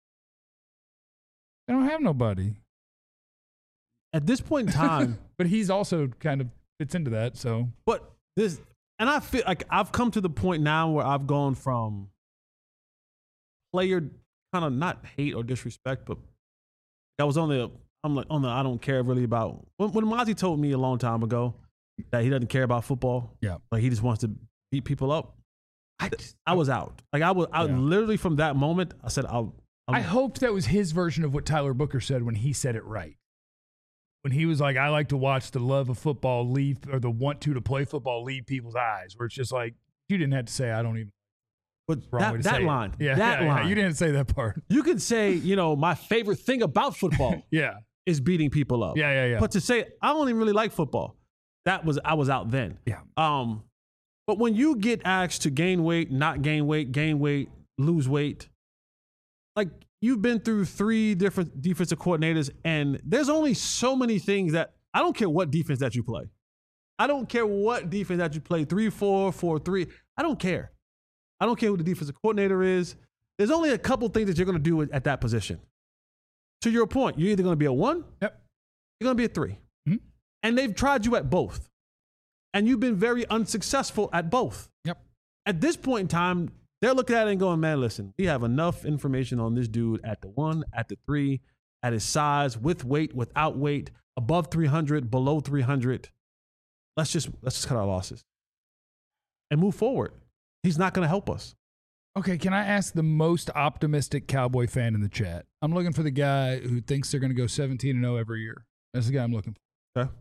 They don't have nobody. At this point in time, but he's also kind of fits into that. So, but this, and I feel like I've come to the point now where I've gone from player kind of not hate or disrespect, but I was on the, I'm like on the, I don't care really about, when, when Mozzie told me a long time ago that he doesn't care about football. Yeah. Like he just wants to beat people up. I, I was out. Like I was, I Yeah. literally from that moment, I said, I'll, I'll I hoped that was his version of what Tyler Booker said when he said it right. When he was like, I like to watch the love of football leave, or the want to to play football leave people's eyes, where it's just like, you didn't have to say, I don't even. But Wrong way that, to that say it. line, Yeah, that yeah, yeah. line. You didn't say that part. You could say, you know, my favorite thing about football Yeah. is beating people up. Yeah, yeah, yeah. But to say I don't even really like football, that was I was out then. Yeah. Um, but when you get asked to gain weight, not gain weight, gain weight, lose weight, like you've been through three different defensive coordinators, and there's only so many things that I don't care what defense that you play. I don't care what defense that you play, three, four, four, three. I don't care. I don't care who the defensive coordinator is. There's only a couple things that you're going to do at that position. To your point, you're either going to be a one, Yep. you're going to be a three. Mm-hmm. And they've tried you at both. And you've been very unsuccessful at both. Yep. At this point in time, they're looking at it and going, man, listen, we have enough information on this dude at the one, at the three, at his size, with weight, without weight, above three hundred, below three hundred. Let's just let's just cut our losses and move forward. He's not going to help us. Okay, can I ask the most optimistic Cowboy fan in the chat? I'm looking for the guy who thinks they're going to go seventeen and oh every year. That's the guy I'm looking for. Okay.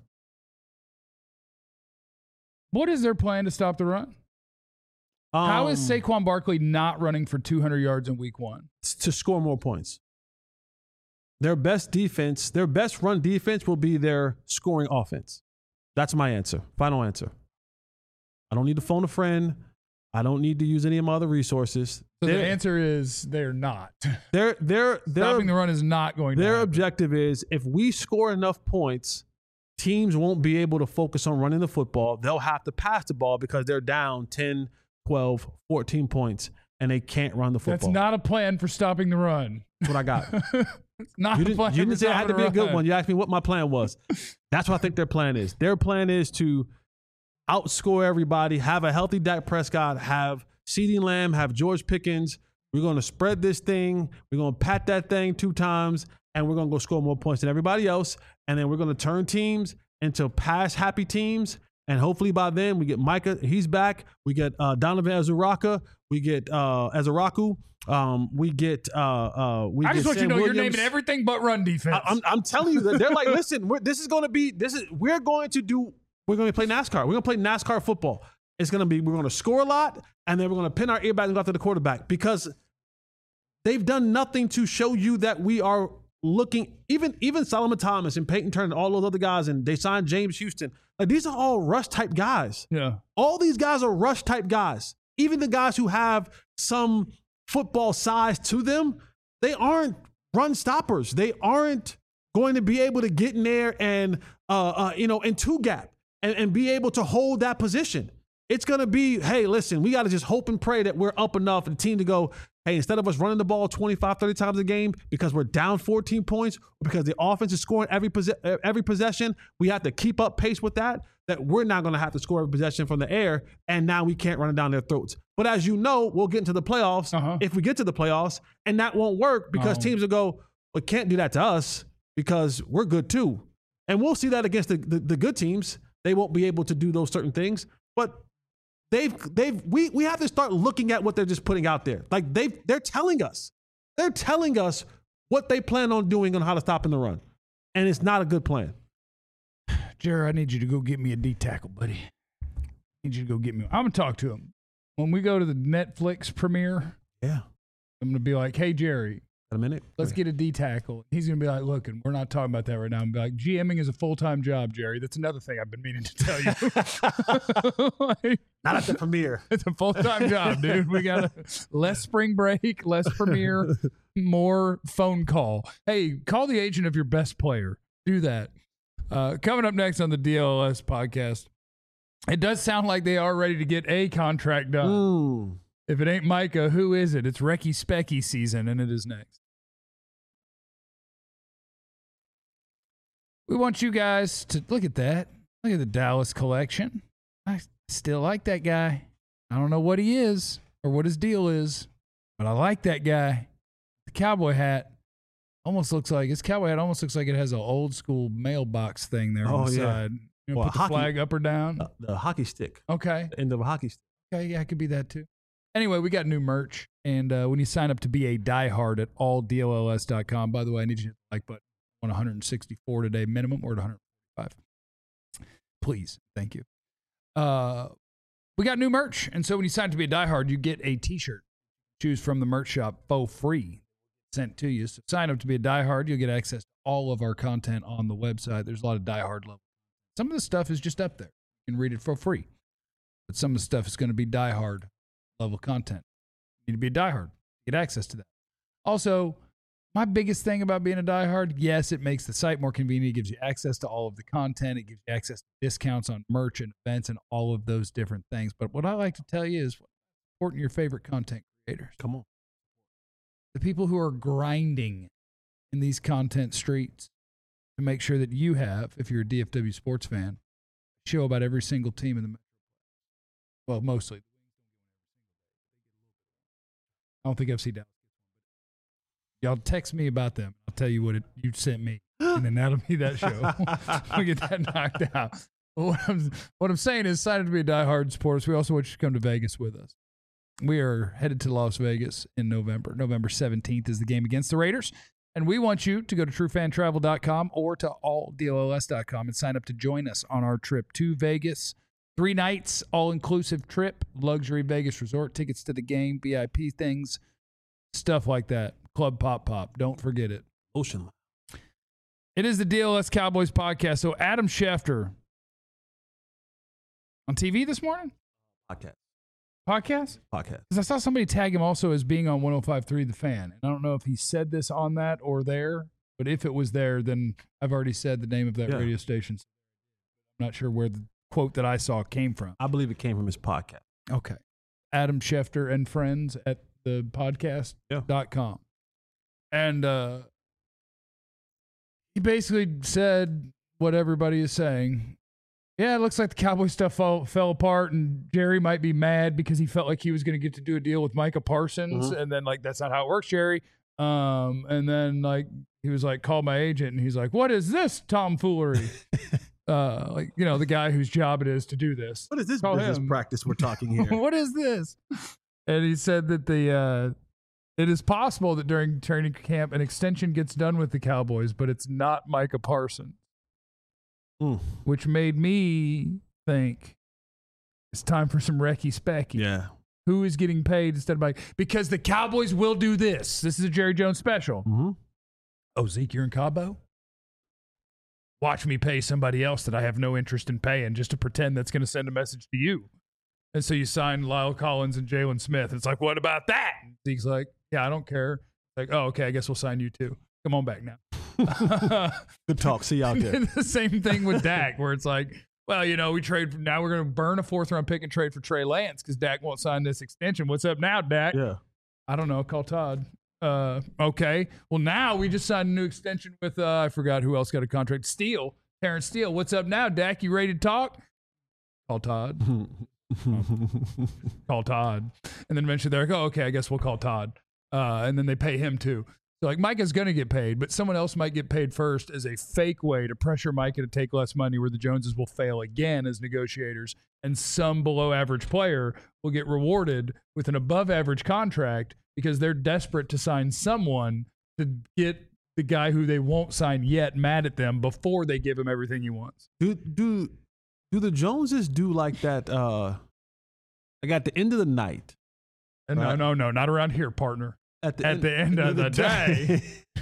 What is their plan to stop the run? Um, How is Saquon Barkley not running for two hundred yards in week one? to score more points? Their best defense, their best run defense will be their scoring offense. That's my answer. Final answer. I don't need to phone a friend. I don't need to use any of my other resources. So the Their- answer is they're not. Their their their Stopping the run is not going to their happen. objective is if we score enough points, teams won't be able to focus on running the football. They'll have to pass the ball because they're down ten, twelve, fourteen points and they can't run the football. That's not a plan for stopping the run. That's what I got. It's not You a didn't, plan you for didn't say it had to stopping be a the good run. one. You asked me what my plan was. That's what I think their plan is. Their plan is to outscore everybody, have a healthy Dak Prescott, have CeeDee Lamb, have George Pickens. We're going to spread this thing. We're going to pat that thing two times, and we're going to go score more points than everybody else. And then we're going to turn teams into pass-happy teams. And hopefully by then we get Micah. He's back. We get uh, Donovan Azuraka. We get uh, Azuraku. Um, we get. Uh, uh, we I get just want you Sam to know Williams. you're naming everything but run defense. I, I'm, I'm telling you that they're like, listen, we're, this is going to be, this is, we're going to do, we're going to play NASCAR. We're going to play NASCAR football. It's going to be, we're going to score a lot, and then we're going to pin our ear back and go after the quarterback because they've done nothing to show you that we are looking. Even even Solomon Thomas and Peyton Turner and all those other guys, and they signed James Houston. Like, these are all rush type guys. Yeah. All these guys are rush type guys. Even the guys who have some football size to them, they aren't run stoppers. They aren't going to be able to get in there and, uh, uh, you know, in two gap and, and be able to hold that position. It's going to be, hey, listen, we got to just hope and pray that we're up enough and the team to go, hey, instead of us running the ball twenty-five, thirty times a game because we're down fourteen points, or because the offense is scoring every, pos- every possession, we have to keep up pace with that, that we're not going to have to score every possession from the air, and now we can't run it down their throats. But as you know, we'll get into the playoffs Uh-huh. if we get to the playoffs, and that won't work because Oh. teams will go, well, can't do that to us because we're good too. And we'll see that against the, the, the good teams. They won't be able to do those certain things. But they've they've we we have to start looking at what they're just putting out there. Like they they're telling us. They're telling us what they plan on doing on how to stop in the run. And it's not a good plan. Jerry, I need you to go get me a D tackle, buddy. I need you to go get me. I'm gonna talk to him when we go to the Netflix premiere. Yeah. I'm gonna be like, "Hey, Jerry, Got a minute? let's get a D tackle." He's gonna be like, "Look, and we're not talking about that right now." I'm gonna be like, "GMing is a full time job, Jerry. That's another thing I've been meaning to tell you." Like, Not at the premiere. it's a full time job, dude. We got less spring break, less premiere, more phone call. Hey, call the agent of your best player. Do that. Uh, coming up next on the D L S podcast, it does sound like they are ready to get a contract done. Mm. If it ain't Micah, who is it? It's Recky Specky season, and it is next. We want you guys to look at that. Look at the Dallas collection. I still like that guy. I don't know what he is or what his deal is, but I like that guy. The cowboy hat almost looks like his cowboy hat almost looks like it has an old school mailbox thing there on Oh, the yeah. side. You know, Well, put the hockey- flag up or down. Uh, the hockey stick. Okay. The end of a hockey stick. Okay, yeah, it could be that too. Anyway, we got new merch, and uh, when you sign up to be a diehard at all D L L S dot com, by the way, I need you to hit the like button on one hundred sixty-four today minimum or at one hundred forty-five. Please, thank you. Uh, we got new merch, and so when you sign up to be a diehard, you get a T-shirt. Choose from the merch shop for free, sent to you. So sign up to be a diehard, you'll get access to all of our content on the website. There's a lot of diehard level. Some of the stuff is just up there. You can read it for free. But some of the stuff is going to be diehard level content. You need to be a diehard. Get access to that. Also, my biggest thing about being a diehard, yes, it makes the site more convenient. It gives you access to all of the content. It gives you access to discounts on merch and events and all of those different things. But what I like to tell you is supporting your favorite content creators. Come on. The people who are grinding in these content streets to make sure that you have, if you're a D F W sports fan, a show about every single team in the Metro. Well, mostly. I don't think F C Dallas. Y'all text me about them. I'll tell you what it, you sent me, and then that'll be that show. We'll get that knocked out. What I'm, what I'm saying is, sign up to be a diehard supporters. We also want you to come to Vegas with us. We are headed to Las Vegas in November. November seventeenth is the game against the Raiders. And we want you to go to true fan travel dot com or to all D L L S dot com and sign up to join us on our trip to Vegas. Three nights, all-inclusive trip, luxury Vegas resort, tickets to the game, V I P things, stuff like that. Club Pop Pop. Don't forget it. Ocean. It is the D L S Cowboys podcast. So Adam Schefter on T V this morning? Podcast. Podcast? Podcast. Because I saw somebody tag him also as being on one oh five point three The Fan. And I don't know if he said this on that or there, but if it was there, then I've already said the name of that Yeah. radio station. I'm not sure where the quote that I saw came from. I believe it came from his podcast. Okay. Adam Schefter and friends at the podcast dot com. And uh, he basically said what everybody is saying. Yeah, it looks like the Cowboy stuff fell, fell apart, and Jerry might be mad because he felt like he was going to get to do a deal with Micah Parsons, Mhm. and then like that's not how it works, Jerry. Um, and then like he was like, call my agent, and he's like, what is this tomfoolery? uh, like you know the guy whose job it is to do this. What is this Call business him. practice we're talking here? What is this? And he said that the uh, it is possible that during training camp an extension gets done with the Cowboys, but it's not Micah Parsons. Mm. Which made me think it's time for some Recky Specky. Yeah. Who is getting paid instead of like, because the Cowboys will do this. This is a Jerry Jones special. Mm-hmm. Oh, Zeke, you're in Cabo? Watch me pay somebody else that I have no interest in paying just to pretend that's going to send a message to you. And so you sign Lyle Collins and Jalen Smith. It's like, what about that? And Zeke's like, yeah, I don't care. Like, oh, okay, I guess we'll sign you too. Come on back now. Good talk. See you out there. The same thing with Dak, where it's like, well, you know, we trade. Now we're going to burn a fourth round pick and trade for Trey Lance because Dak won't sign this extension. What's up now, Dak? Yeah. I don't know. Call Todd. Uh, okay. Well, now we just signed a new extension with, uh, I forgot who else got a contract. Steele. Terrence Steele. What's up now, Dak? You ready to talk? Call Todd. Call Todd. And then eventually they're like, oh, okay, I guess we'll call Todd. Uh, and then they pay him too. So like Micah's going to get paid, but someone else might get paid first as a fake way to pressure Micah to take less money, where the Joneses will fail again as negotiators, and some below average player will get rewarded with an above average contract because they're desperate to sign someone to get the guy who they won't sign yet mad at them before they give him everything he wants. Do do do the Joneses do like that? Uh, like at the end of the night. And right? no, no, no, not around here, partner. At the At end, the end of the day.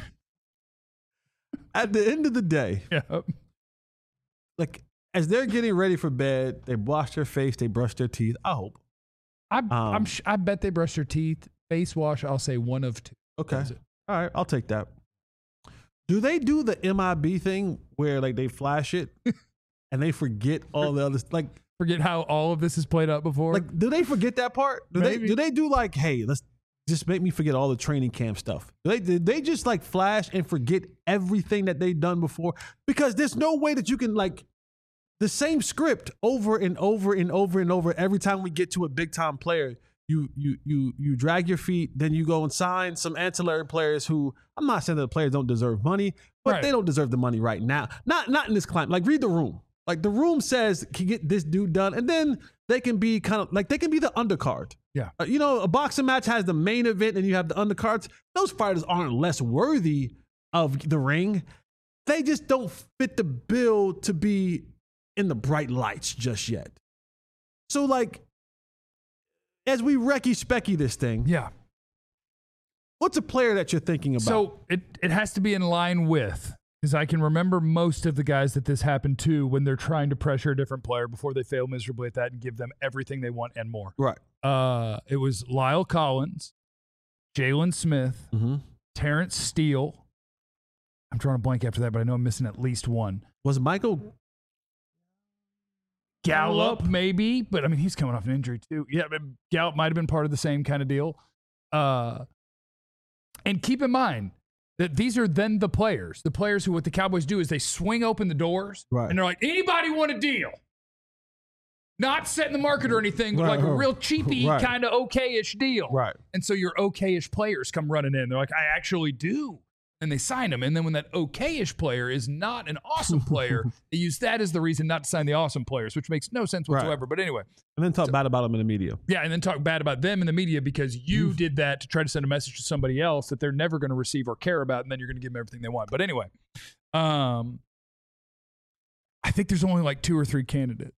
At the end of the day. Yep. Like as they're getting ready for bed, they wash their face, they brush their teeth. I hope. I, Um, I'm, sh- I bet they brush their teeth. Face wash, I'll say one of two. Okay. That's it. All right, I'll take that. Do they do the M I B thing where like they flash it and they forget all the other like Forget how all of this is played out before. like do they forget that part? Do Maybe. they do they do like, hey, let's just make me forget all the training camp stuff? Do they did they just like flash and forget everything that they've done before? Because there's no way that you can like the same script over and over and over and over every time we get to a big time player. You you you you drag your feet, then you go and sign some ancillary players who I'm not saying that the players don't deserve money, but Right. they don't deserve the money right now. Not not in this climate. Like read the room. Like the room says can get this dude done, and then they can be kind of like they can be the undercard. Yeah. Uh, you know, a boxing match has the main event, and you have the undercards. Those fighters aren't less worthy of the ring. They just don't fit the bill to be in the bright lights just yet. So like. As we Recky Specky this thing, yeah. what's a player that you're thinking about? So it, it has to be in line with, because I can remember most of the guys that this happened to when they're trying to pressure a different player before they fail miserably at that and give them everything they want and more. right. Uh, it was Lyle Collins, Jalen Smith, Mm-hmm. Terrence Steele. I'm drawing a blank after that, but I know I'm missing at least one. Was Michael Gallup, maybe, but I mean, he's coming off an injury too. Yeah, but Gallup might have been part of the same kind of deal. Uh, and keep in mind that these are then the players. The players who, what the Cowboys do is they swing open the doors Right. and they're like, anybody want a deal? Not setting the market or anything, but Right, like a right. real cheapy Right. kind of okay-ish deal. Right. And so your okay-ish players come running in. They're like, I actually do. And they sign them. And then when that okay-ish player is not an awesome player, they use that as the reason not to sign the awesome players, which makes no sense Right. whatsoever. But anyway, and then talk bad about him in the media? yeah, and then talk bad about them in the media because you did that to try to send a message to somebody else that they're never going to receive or care about, and then you're going to give them everything they want. But anyway, um, I think there's only like two or three candidates.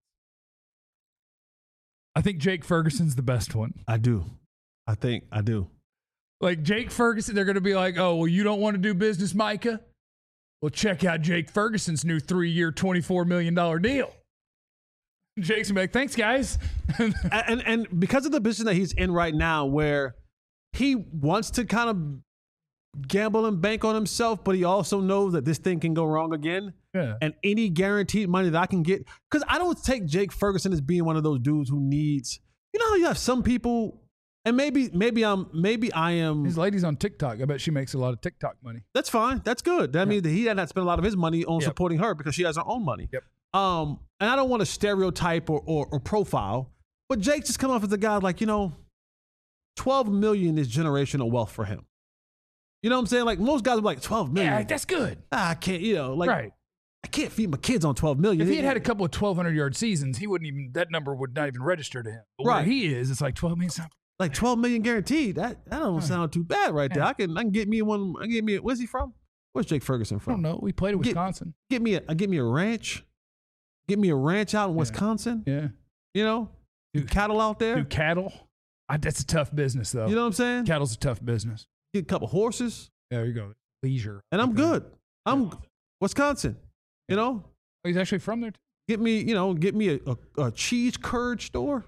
I think Jake Ferguson's the best one. I do. I think I do. Like Jake Ferguson, they're going to be like, oh, well, you don't want to do business, Micah? Well, check out Jake Ferguson's new three-year, twenty-four million dollars deal. Jake's going to be like, thanks, guys. and, and and because of the position that he's in right now, where he wants to kind of gamble and bank on himself, but he also knows that this thing can go wrong again. Yeah. And any guaranteed money that I can get, because I don't take Jake Ferguson as being one of those dudes who needs. You know how you have some people. And maybe, maybe I'm, maybe I am. His lady's on TikTok. I bet she makes a lot of TikTok money. That's fine. That's good. That means that he had not spent a lot of his money on Yep. supporting her because she has her own money. Yep. Um, and I don't want to stereotype or, or or profile, but Jake just come off as a guy like, you know, twelve million is generational wealth for him. You know what I'm saying? Like most guys are like twelve million. Yeah, that's good. ah, I can't, you know, like Right. I can't feed my kids on twelve million. If he had had a couple of twelve hundred yard seasons, he wouldn't even, that number would not even register to him. But Right. where he is, it's like twelve million. like twelve million guaranteed. That that don't sound too bad right there. Yeah. I can I can get me one. I can get me. A, where's he from? Where's Jake Ferguson I from? don't know. We played at Get- Wisconsin. Get me a get me a ranch. Get me a ranch out in Wisconsin. Yeah. You know, do cattle out there. Do cattle. I, that's a tough business, though. You know what I'm saying? Cattle's a tough business. Get a couple horses, There you go. Leisure. and I'm Okay. good. I'm Wisconsin. You know, Oh, he's actually from there, too. get me, you know, get me a, a, a cheese curd store.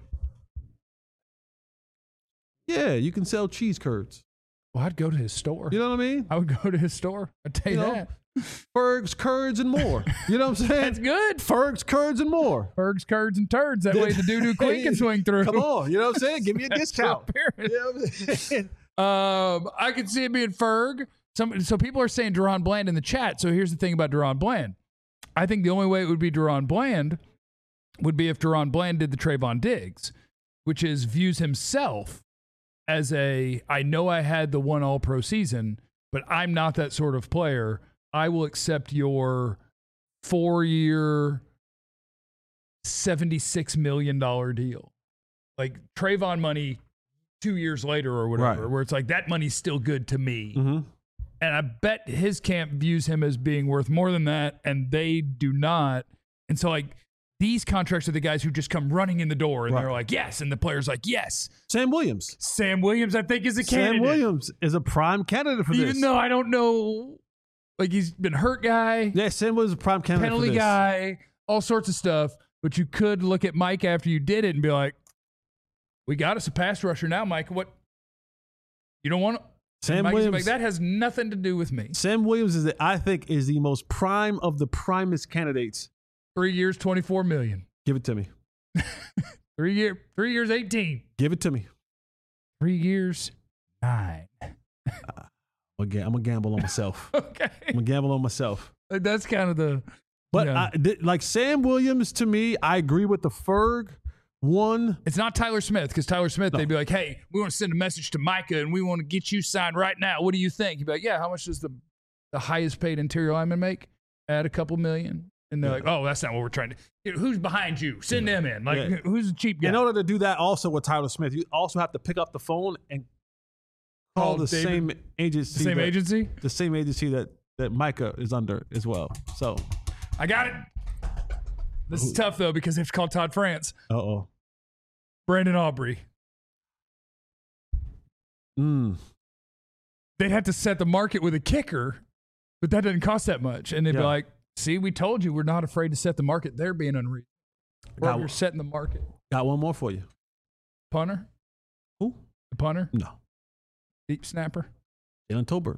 Yeah, you can sell cheese curds. Well, I'd go to his store. You know what I mean? I would go to his store. I'd tell you, You know, that. Ferg's curds and more. You know what I'm saying? That's good. Ferg's curds and more. Berg's, curds, and turds. That way the doo-doo queen can swing through. Come on, you know what I'm saying? Give me a discount. Appearance. You know what I'm saying? Um, I can see it being Ferg. Some, so people are saying Deron Bland in the chat. So here's the thing about Deron Bland. I think the only way it would be Deron Bland would be if Deron Bland did the Trayvon Diggs, which is views himself as a, I know I had the one all-pro season, but I'm not that sort of player. I will accept your four-year, seventy-six million dollars deal. Like Trayvon money two years later or whatever, Right. where it's like that money's still good to me. Mm-hmm. And I bet his camp views him as being worth more than that, and they do not. And so, like, these contracts are the guys who just come running in the door, and Right. they're like, yes. And the player's like, yes. Sam Williams. Sam Williams, I think, is a Sam candidate. Williams is a prime candidate for Even this. though I don't know, like, he's been hurt guy, Yeah, Sam Williams is a prime candidate penalty for this. guy, all sorts of stuff. But you could look at Mike after you did it and be like, we got us a pass rusher now, Mike. What? You don't want to? Sam Mike's Williams. like, that has nothing to do with me. Sam Williams is, the, I think, is the most prime of the primest candidates. Three years, twenty-four million. Give it to me. Three year, three years, eighteen. Give it to me. Three years, nine. I'm gonna, I'm gonna gamble on myself. Okay, I'm gonna gamble on myself. that's kind of the. But yeah. I, th- like Sam Williams, to me, I agree with the Ferg one. It's not Tyler Smith, because Tyler Smith, No. they'd be like, "Hey, we want to send a message to Micah, and we want to get you signed right now. What do you think?" He'd be like, "Yeah, how much does the the highest paid interior lineman make? Add a couple million." And they're Yeah. like, "Oh, that's not what we're trying to. You know, who's behind you? Send them in. Like, Yeah. who's the cheap guy?" In order to do that, also with Tyler Smith, you also have to pick up the phone and call Call the David- same agency, the same that, agency. the same agency that that Micah is under as well. So, I got it. This is tough though, because they have to call Todd France, uh oh. Brandon Aubrey. Mm. They'd have to set the market with a kicker, but that doesn't cost that much. And they'd be Yeah. like, see, we told you we're not afraid to set the market. They're being unreasonable. Or Got, you're setting the market. got one more for you. Punter? Who? The punter? No. Deep snapper? Jalen Tolbert.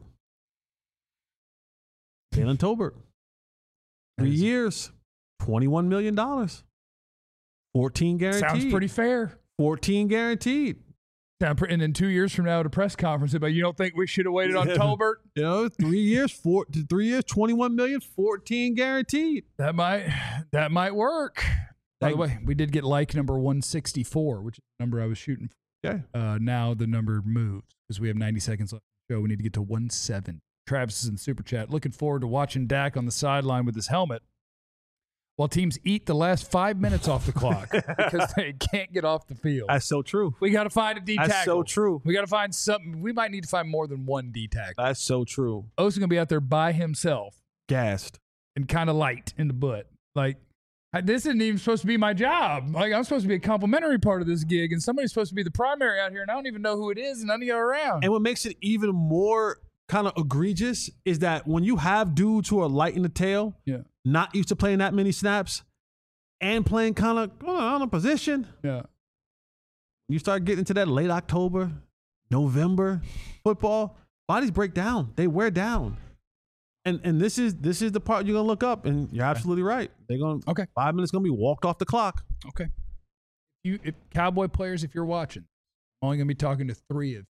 Jalen Tolbert. Three years, twenty-one million dollars. fourteen guaranteed. Sounds pretty fair. fourteen guaranteed. Sound pre- And then two years from now at a press conference, they'd be like, you don't think we should have waited on Yeah. Tolbert? You know, three years, four, three years, twenty-one million, fourteen guaranteed. That might that might work. By the way, we did get like number one sixty-four, which is the number I was shooting for. Okay. Uh, now the number moves because we have ninety seconds left in the show. We need to get to one seventy. Travis is in the super chat. Looking forward to watching Dak on the sideline with his helmet while teams eat the last five minutes off the clock because they can't get off the field. That's so true. We got to find a D tackle. That's so true. We got to find something. We might need to find more than one D tackle. That's so true. O's going to be out there by himself Gassed. and kind of light in the butt. Like, I- this isn't even supposed to be my job. Like, I'm supposed to be a complimentary part of this gig, and somebody's supposed to be the primary out here, and I don't even know who it is, and none of you are around. And what makes it even more kind of egregious is that when you have dudes who are light in the tail, Yeah. not used to playing that many snaps, and playing kind of on a position, Yeah. you start getting into that late October, November football, bodies break down. They wear down. And and this is this is the part you're gonna look up, and you're absolutely right. They're gonna Okay. five minutes gonna be walked off the clock. Okay. You, if Cowboy players, if you're watching, I'm only going to be talking to three of you.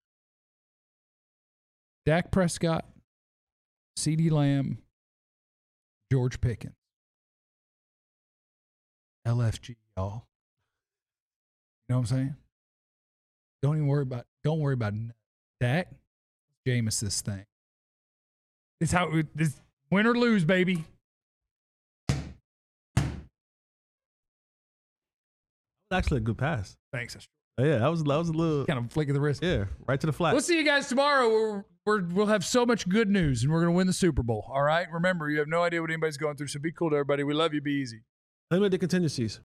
Dak Prescott, CeeDee Lamb, George Pickens. L F G, y'all. You know what I'm saying? Don't even worry about, don't worry about Dak. Jameis this thing. It's how, this win or lose, baby. Actually, a good pass. Thanks. Oh, yeah, that was that was a little Kind of flick of the wrist. yeah, right to the flat. We'll see you guys tomorrow. We're, we're, we'll have so much good news, and we're going to win the Super Bowl. All right? Remember, you have no idea what anybody's going through, so be cool to everybody. We love you. Be easy. Limited contingencies.